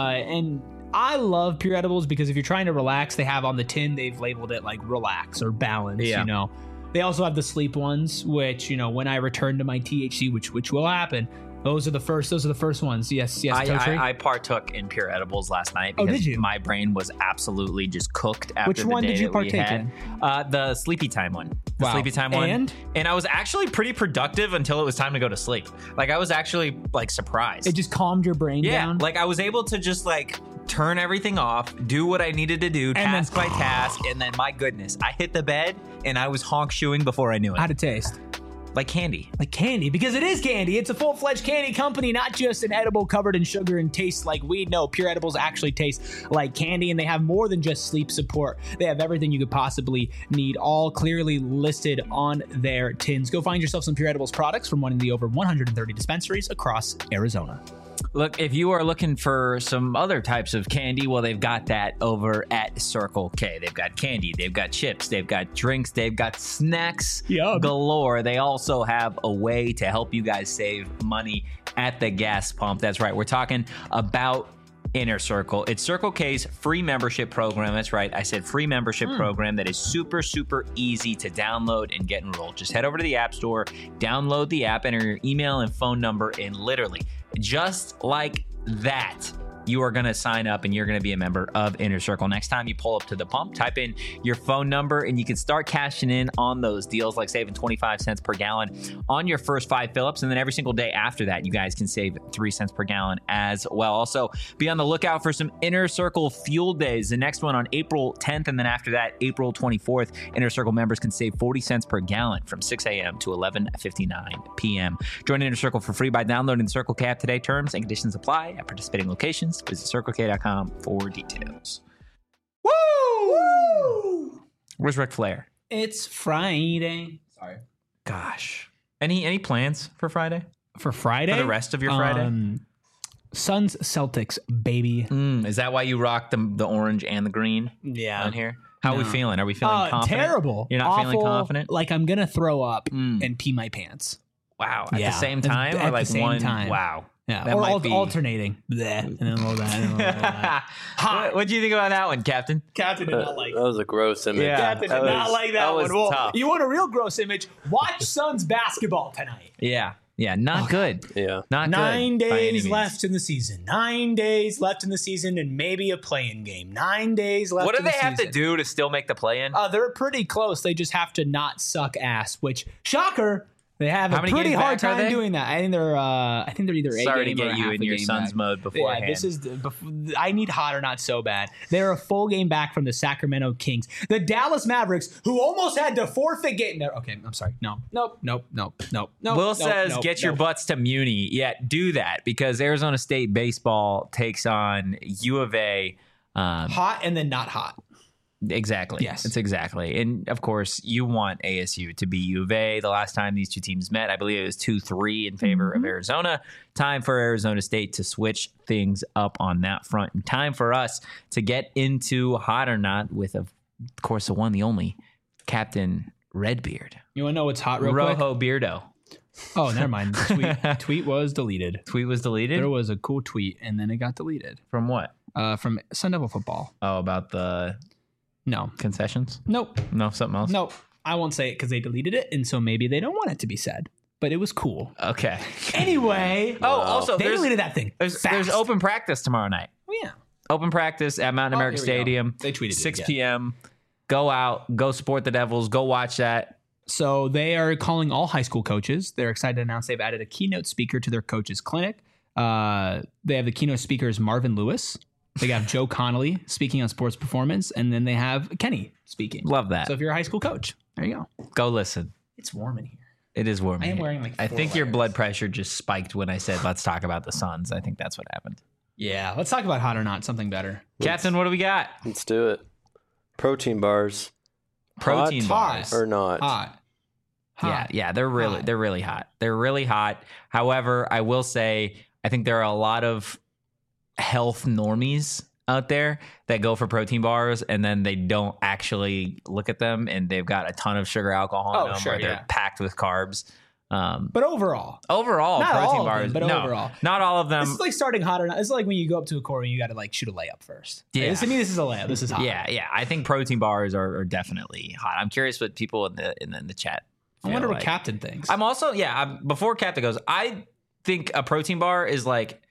And I love pure edibles because if you're trying to relax, they have on the tin, they've labeled it like relax or balance, Yeah. They also have the sleep ones, which, when I return to my THC, which will happen, those are the first ones. Yes, Totri? I partook in pure edibles last night Oh, because did you? my brain was absolutely just cooked after Which the one day did you that we partake had. in? The Sleepy Time one. The Wow. Sleepy Time one. And I was actually pretty productive until it was time to go to sleep. Like I was actually like surprised. it just calmed your brain down. Like I was able to just like turn everything off, do what I needed to do, task by task, and then my goodness, I hit the bed and I was honk shoeing before I knew it. How'd it taste? Like candy. Like candy, because it is candy. It's a full-fledged candy company, not just an edible covered in sugar and tastes like weed. No, Pure Edibles actually taste like candy, and they have more than just sleep support. They have everything you could possibly need, all clearly listed on their tins. Go find yourself some Pure Edibles products from one of the over 130 dispensaries across Arizona. Look, if you are looking for some other types of candy, well, they've got that over at Circle K. They've got candy, they've got chips, they've got drinks, they've got snacks galore. They also have a way to help you guys save money at the gas pump. That's right. We're talking about Inner Circle. It's Circle K's free membership program. That's right. I said free membership program that is super, super easy to download and get enrolled. Just head over to the App Store, download the app, enter your email and phone number, and literally just like that, you are going to sign up and you're going to be a member of Inner Circle. Next time you pull up to the pump, type in your phone number and you can start cashing in on those deals, like saving 25 cents per gallon on your first 5 fill-ups. And then every single day after that, you guys can save 3 cents per gallon as well. Also, be on the lookout for some Inner Circle Fuel Days. The next one on April 10th, and then after that, April 24th, Inner Circle members can save 40 cents per gallon from 6 a.m. to 11:59 p.m. Join Inner Circle for free by downloading the Circle K app today. Terms and conditions apply at participating locations. Visit CircleK.com for details. Woo! Where's Ric Flair? It's Friday. Sorry. Gosh. Any plans for Friday? For Friday? For the rest of your Friday? Suns Celtics, baby. Is that why you rock the orange and the green on here? How are we feeling? Are we feeling confident? Terrible. You're not feeling confident? Like I'm going to throw up and pee my pants. Wow. At the same time? At or like the same one? time. Wow. Yeah, That or might be- alternating. Bleh, and then a little that. And then a little that. What do you think about that one, Captain? Captain did not like That was a gross image. Yeah. Captain did not like that was one. Well, tough. you want a real gross image? Watch Suns basketball tonight. Yeah. Yeah. Not good. Yeah. Not good. 9 by any days means. left in the season. 9 days left in the season, and maybe a play-in game. 9 days left. What do in they the have to season. do to still make the play-in? They're pretty close. They just have to not suck ass. Which shocker. They have How a many pretty games hard back are time they? doing that. I think they're either a Sorry to game or get a you half in a your game son's back. mode beforehand. Yeah, this is I need hot or not so bad. They're a full game back from the Sacramento Kings. The Dallas Mavericks, who almost had to forfeit game. Okay, I'm sorry. Nope. Will says, get your butts to Muni. Yeah, do that because Arizona State baseball takes on U of A. Hot and then not hot. Exactly. Yes. It's exactly. And of course, you want ASU to beat U of A. The last time these two teams met, I believe it was 2-3 in favor of Arizona. Time for Arizona State to switch things up on that front. And time for us to get into hot or not with, of course, the one, the only, Captain Redbeard. You want to know what's hot real quick? Rojo Beardo. Oh, never mind. The tweet was deleted. Tweet was deleted? There was a cool tweet, and then it got deleted. From what? From Sun Devil Football. Oh, about the No. concessions? Nope. No, something else? Nope. I won't say it because they deleted it, and so maybe they don't want it to be said. But it was cool. Okay. Anyway. Oh, also, They deleted that thing. There's fast. open practice tomorrow night. Oh, yeah. Open practice at Mountain America here we go. Stadium. They tweeted it 6 again. p.m. Go out, go support the Devils, go watch that. So they are calling all high school coaches. They're excited to announce they've added a keynote speaker to their coaches clinic. They have the keynote speakers Marvin Lewis. They have Joe Connolly speaking on sports performance, and then they have Kenny speaking. Love that. So if you're a high school coach, there you go. Go listen. It's warm in here. It is warm. I am here. wearing, like, I 4 think your layers. blood pressure just spiked when I said let's talk about the Suns. I think that's what happened. Yeah, let's talk about hot or not, something better. Captain, what do we got? Let's do it. Protein bars. Protein Hot bars. or not? Hot. Yeah, they're really Hot. they're really hot. They're really hot. However, I will say I think there are a lot of health normies out there that go for protein bars and then they don't actually look at them and they've got a ton of sugar alcohol in them sure, or they're yeah. packed with carbs. But overall, Overall, Not protein all of bars, them, but no, overall. not all of them. this is like starting hot or not. This is like when you go up to a court and you got to like shoot a layup first. Yeah. To me, this is a layup. This is hot. Yeah. I think protein bars are definitely hot. I'm curious what people in the chat. I wonder feel what like. Captain thinks. I'm also before Captain goes, I think a protein bar is like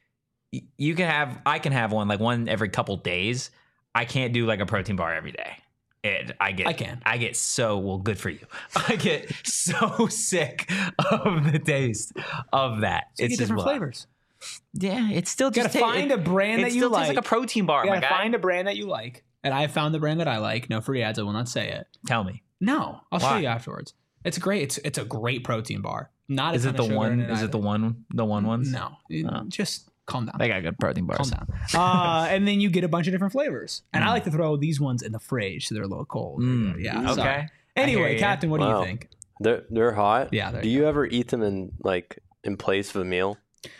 I can have one like one every couple days. I can't do like a protein bar every day. I get so well. Good for you. I get so sick of the taste of that. So you It's get different just flavors. Yeah, it's still You just gotta find a brand it that you still like. tastes like a protein bar. You My gotta guy. find a brand that you like, and I found the brand that I like. No free ads. I will not say it. Tell me, No, I'll show Why? you afterwards. It's great. It's a great protein bar. Not a is ton it the of sugar one? in it Is it either. the one ones? No, just calm down. They got good protein bars. Calm down. And then you get a bunch of different flavors. And I like to throw these ones in the fridge so they're a little cold. Yeah. Okay. sorry. I hear Anyway, you. Captain, what do Wow. you think? They're hot. Yeah, there Do you you ever eat them in place of a meal?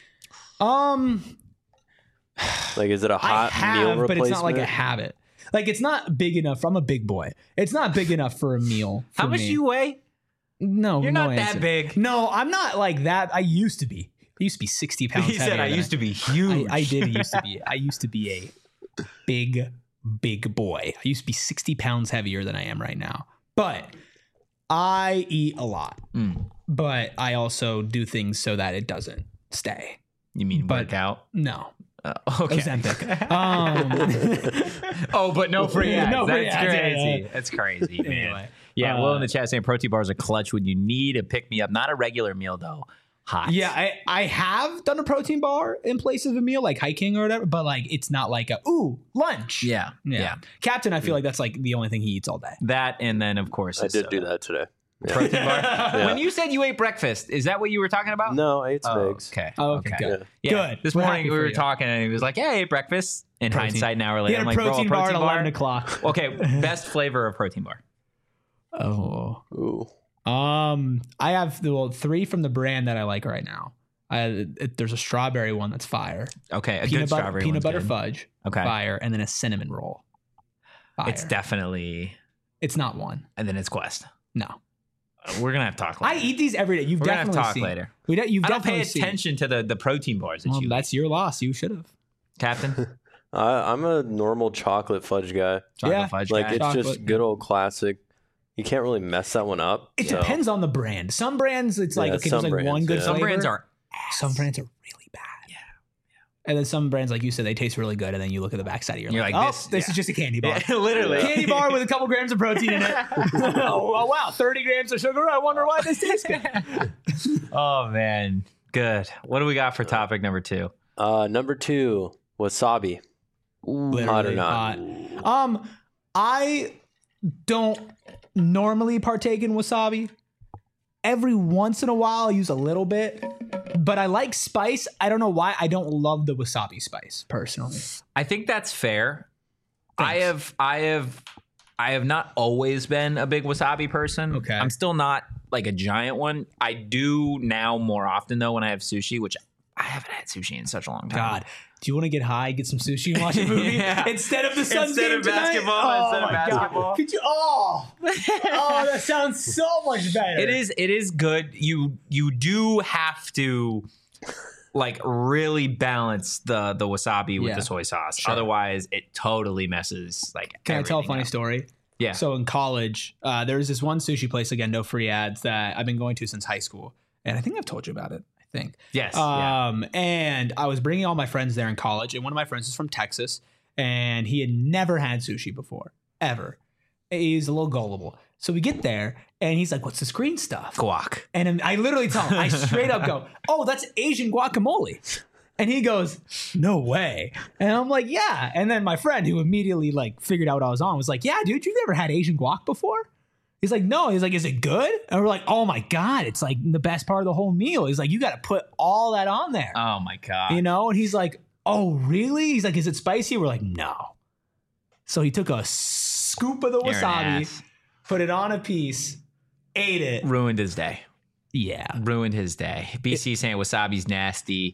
Like, is it a I hot meal have, replacement? but it's not like a habit. Like it's not big enough. I'm a big boy. It's not big enough for a meal. How much do you weigh? No, You're no not that answer. big. No, I'm not like that. I used to be. I used to be 60 pounds. He said I used to be huge. I did used to be. I used to be a big boy. I used to be 60 pounds heavier than I am right now. But I eat a lot. But I also do things so that it doesn't stay. You mean But- work out? No. Okay. Ozempic. Oh, but no free ads. No free That's ads, yeah, crazy. yeah. That's crazy, man. Anyway, Yeah, Will in the chat saying protein bars are clutch when you need a pick me up. Not a regular meal though. Hot. Yeah, I have done a protein bar in place of a meal, like hiking or whatever, but like it's not like lunch. Yeah. Captain, I feel like that's like the only thing he eats all day. That and then of course I his did do soda. that today. Yeah. Protein bar. Yeah. When you said you ate breakfast, is that what you were talking about? No, I ate some Oh, eggs. okay. Oh, okay, good. Yeah. Good. This We're morning happy we for were you. talking and he was like, "Yeah, I ate breakfast." In Protein. hindsight, an hour He later, had I'm a like, "Bro, protein a bar protein at bar." 11 o'clock. Okay, best flavor of protein bar. Oh. Ooh. I have 3 from the brand that I like right now. There's a strawberry one that's fire. Okay, a good strawberry peanut one's butter good. fudge. Okay. Fire, and then a cinnamon roll. Fire. It's definitely, It's not one. and then it's Quest. No. We're gonna have to talk I later. eat these every day. You've We're gonna have to definitely talk seen. later. You've I don't pay definitely seen. attention to the protein bars that Well, you that's your loss. You should have. Captain. I'm a normal chocolate fudge guy. Chocolate Yeah. fudge Like guy. it's Chocolate, just good old classic. You can't really mess that one up. It so. depends on the brand. Some brands, it's like Yeah, okay, there's some like one brands, good yeah. Some flavor. brands are Some brands are really bad. And then some brands, like you said, they taste really good. And then you look at the backside of You're like, like, oh, this is just a candy bar. Yeah, literally. Candy bar with a couple grams of protein in it. Oh, wow, 30 grams of sugar. I wonder why this tastes good. Oh, man. Good. What do we got for topic number 2? Number 2, wasabi. Hot or not? Hot. I don't normally partake in wasabi. Every once in a while, I'll use a little bit, but I like spice. I don't know why. I don't love the wasabi spice personally. I think that's fair. Thanks. I have not always been a big wasabi person. Okay. I'm still not like a giant one. I do now more often though when I have sushi, which I haven't had sushi in such a long time. God, do you want to get high, get some sushi, and watch a movie Yeah. instead of the Suns Instead game of tonight? basketball, Oh instead of my God. basketball. Could you? Oh, that sounds so much better. It is good. You do have to like really balance the wasabi with Yeah. the soy sauce. Sure. Otherwise, it totally messes like. Can I tell a everything funny up. story? Yeah. So in college, there was this one sushi place, again, no free ads, that I've been going to since high school. And I think I've told you about it, I think. Yes. Yeah. And I was bringing all my friends there in college, and one of my friends is from Texas, and he had never had sushi before, ever. He's a little gullible. So we get there, and he's like, what's this green stuff? Guac. And I literally tell him, I straight up go, oh, that's Asian guacamole. And he goes, no way. And I'm like, yeah. And then my friend, who immediately like figured out what I was on, was like, yeah, dude, you've never had Asian guac before? He's like, no. He's like, is it good? And we're like, oh my God, it's like the best part of the whole meal. He's like, you got to put all that on there. Oh my God. You know? And he's like, oh, really? He's like, is it spicy? We're like, no. So he took a scoop of the You're an wasabi, ass. put it on a piece, ate it. Ruined his day. Yeah. Ruined his day. BC saying wasabi's nasty.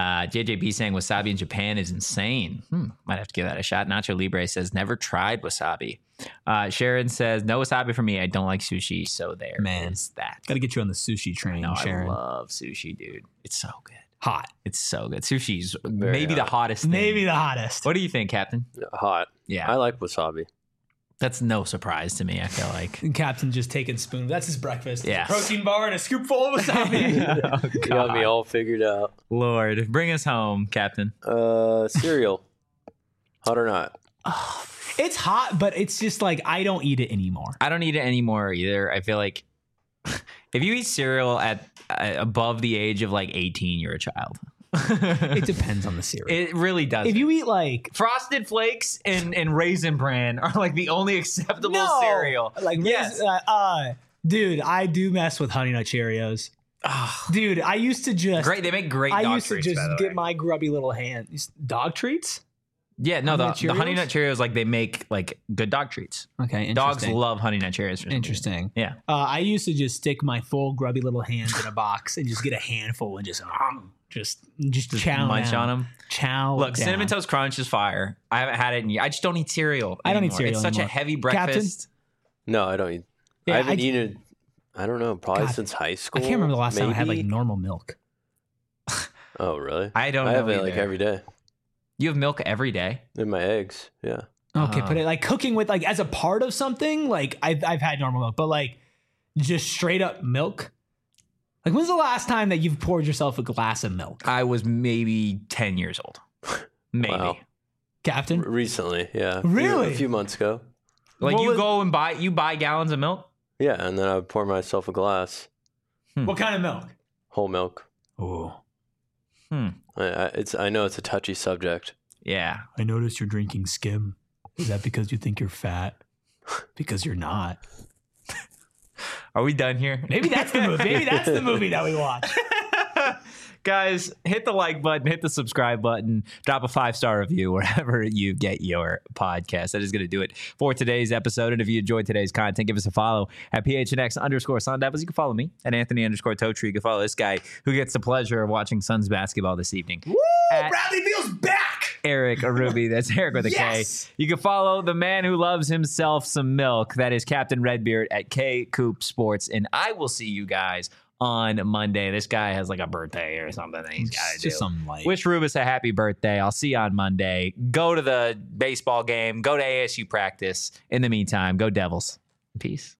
JJB saying wasabi in Japan is insane. Might have to give that a shot. Nacho Libre says never tried wasabi. Sharon says no wasabi for me. I don't like sushi. So there Man. is that. Got to get you on the sushi train, No, Sharon. I love sushi, dude. It's so good. Hot. It's so good. Sushi's Very maybe the hot. hottest thing. Maybe the hottest. What do you think, Captain? Hot. Yeah. I like wasabi. That's no surprise to me, I feel like. And Captain just taking spoon. That's his breakfast. Yes. A protein bar and a scoop full of wasabi. You got me all figured out. Lord, bring us home, Captain. Cereal. Hot or not? It's hot, but it's just like I don't eat it anymore. I don't eat it anymore either. I feel like if you eat cereal at above the age of like 18, you're a child. It depends on the cereal. It really does. If you eat like Frosted Flakes and Raisin Bran are like the only acceptable cereal. like Yes. dude, I do mess with Honey Nut Cheerios. Dude, I used to just Great. They make great I dog used to treats, just by the get way. my grubby little hand. Dog treats? Yeah, no, Honey Nut the Honey Cheerios? Nut Cheerios, like they make like good dog treats. Okay, Dogs interesting. love Honey Nut Cheerios. for some Interesting. reason. Yeah. I used to just stick my full grubby little hands in a box and just get a handful and just chow Munch down. on them. Chow. Look, down. Cinnamon Toast Crunch is fire. I haven't had it in years. I just don't eat cereal. I don't eat anymore. cereal It's such a anymore. heavy Captain? breakfast. No, I don't eat. Yeah, I haven't I- eaten. I don't know. Probably God, since high I school. can't remember the last time I had like maybe? normal milk. Oh, really? I don't I know have it like either. every day You have milk every day? in my eggs. Yeah. Okay, but it, like cooking with like as a part of something, like I've had normal milk, but like just straight up milk. Like when's the last time that you've poured yourself a glass of milk, I was maybe 10 years old. Maybe. Wow. Captain? Recently, yeah. Really? A few months ago. Like What you was- go and buy gallons of milk? Yeah, and then I would pour myself a glass, What kind of milk? whole milk. Oh, I know it's a touchy subject. Yeah. I noticed you're drinking skim. Is that because you think you're fat? Because you're not. Are we done here? Maybe that's the movie. Maybe that's the movie that we watch. Guys, hit the like button, hit the subscribe button, drop a 5-star review wherever you get your podcast. That is going to do it for today's episode. And if you enjoyed today's content, give us a follow at PHNX_Sun Devils. You can follow me at Anthony_Totri. You can follow this guy who gets the pleasure of watching Suns basketball this evening. Woo! At Bradley Beal's back. Eric Arubi. That's Eric with a Yes! K. You can follow the man who loves himself some milk. That is Captain Redbeard at K Coop Sports. And I will see you guys on Monday. This guy has like a birthday or something that he's got to do. Just something like. Wish Rubus a happy birthday. I'll see you on Monday. Go to the baseball game. Go to ASU practice. In the meantime, go Devils. Peace.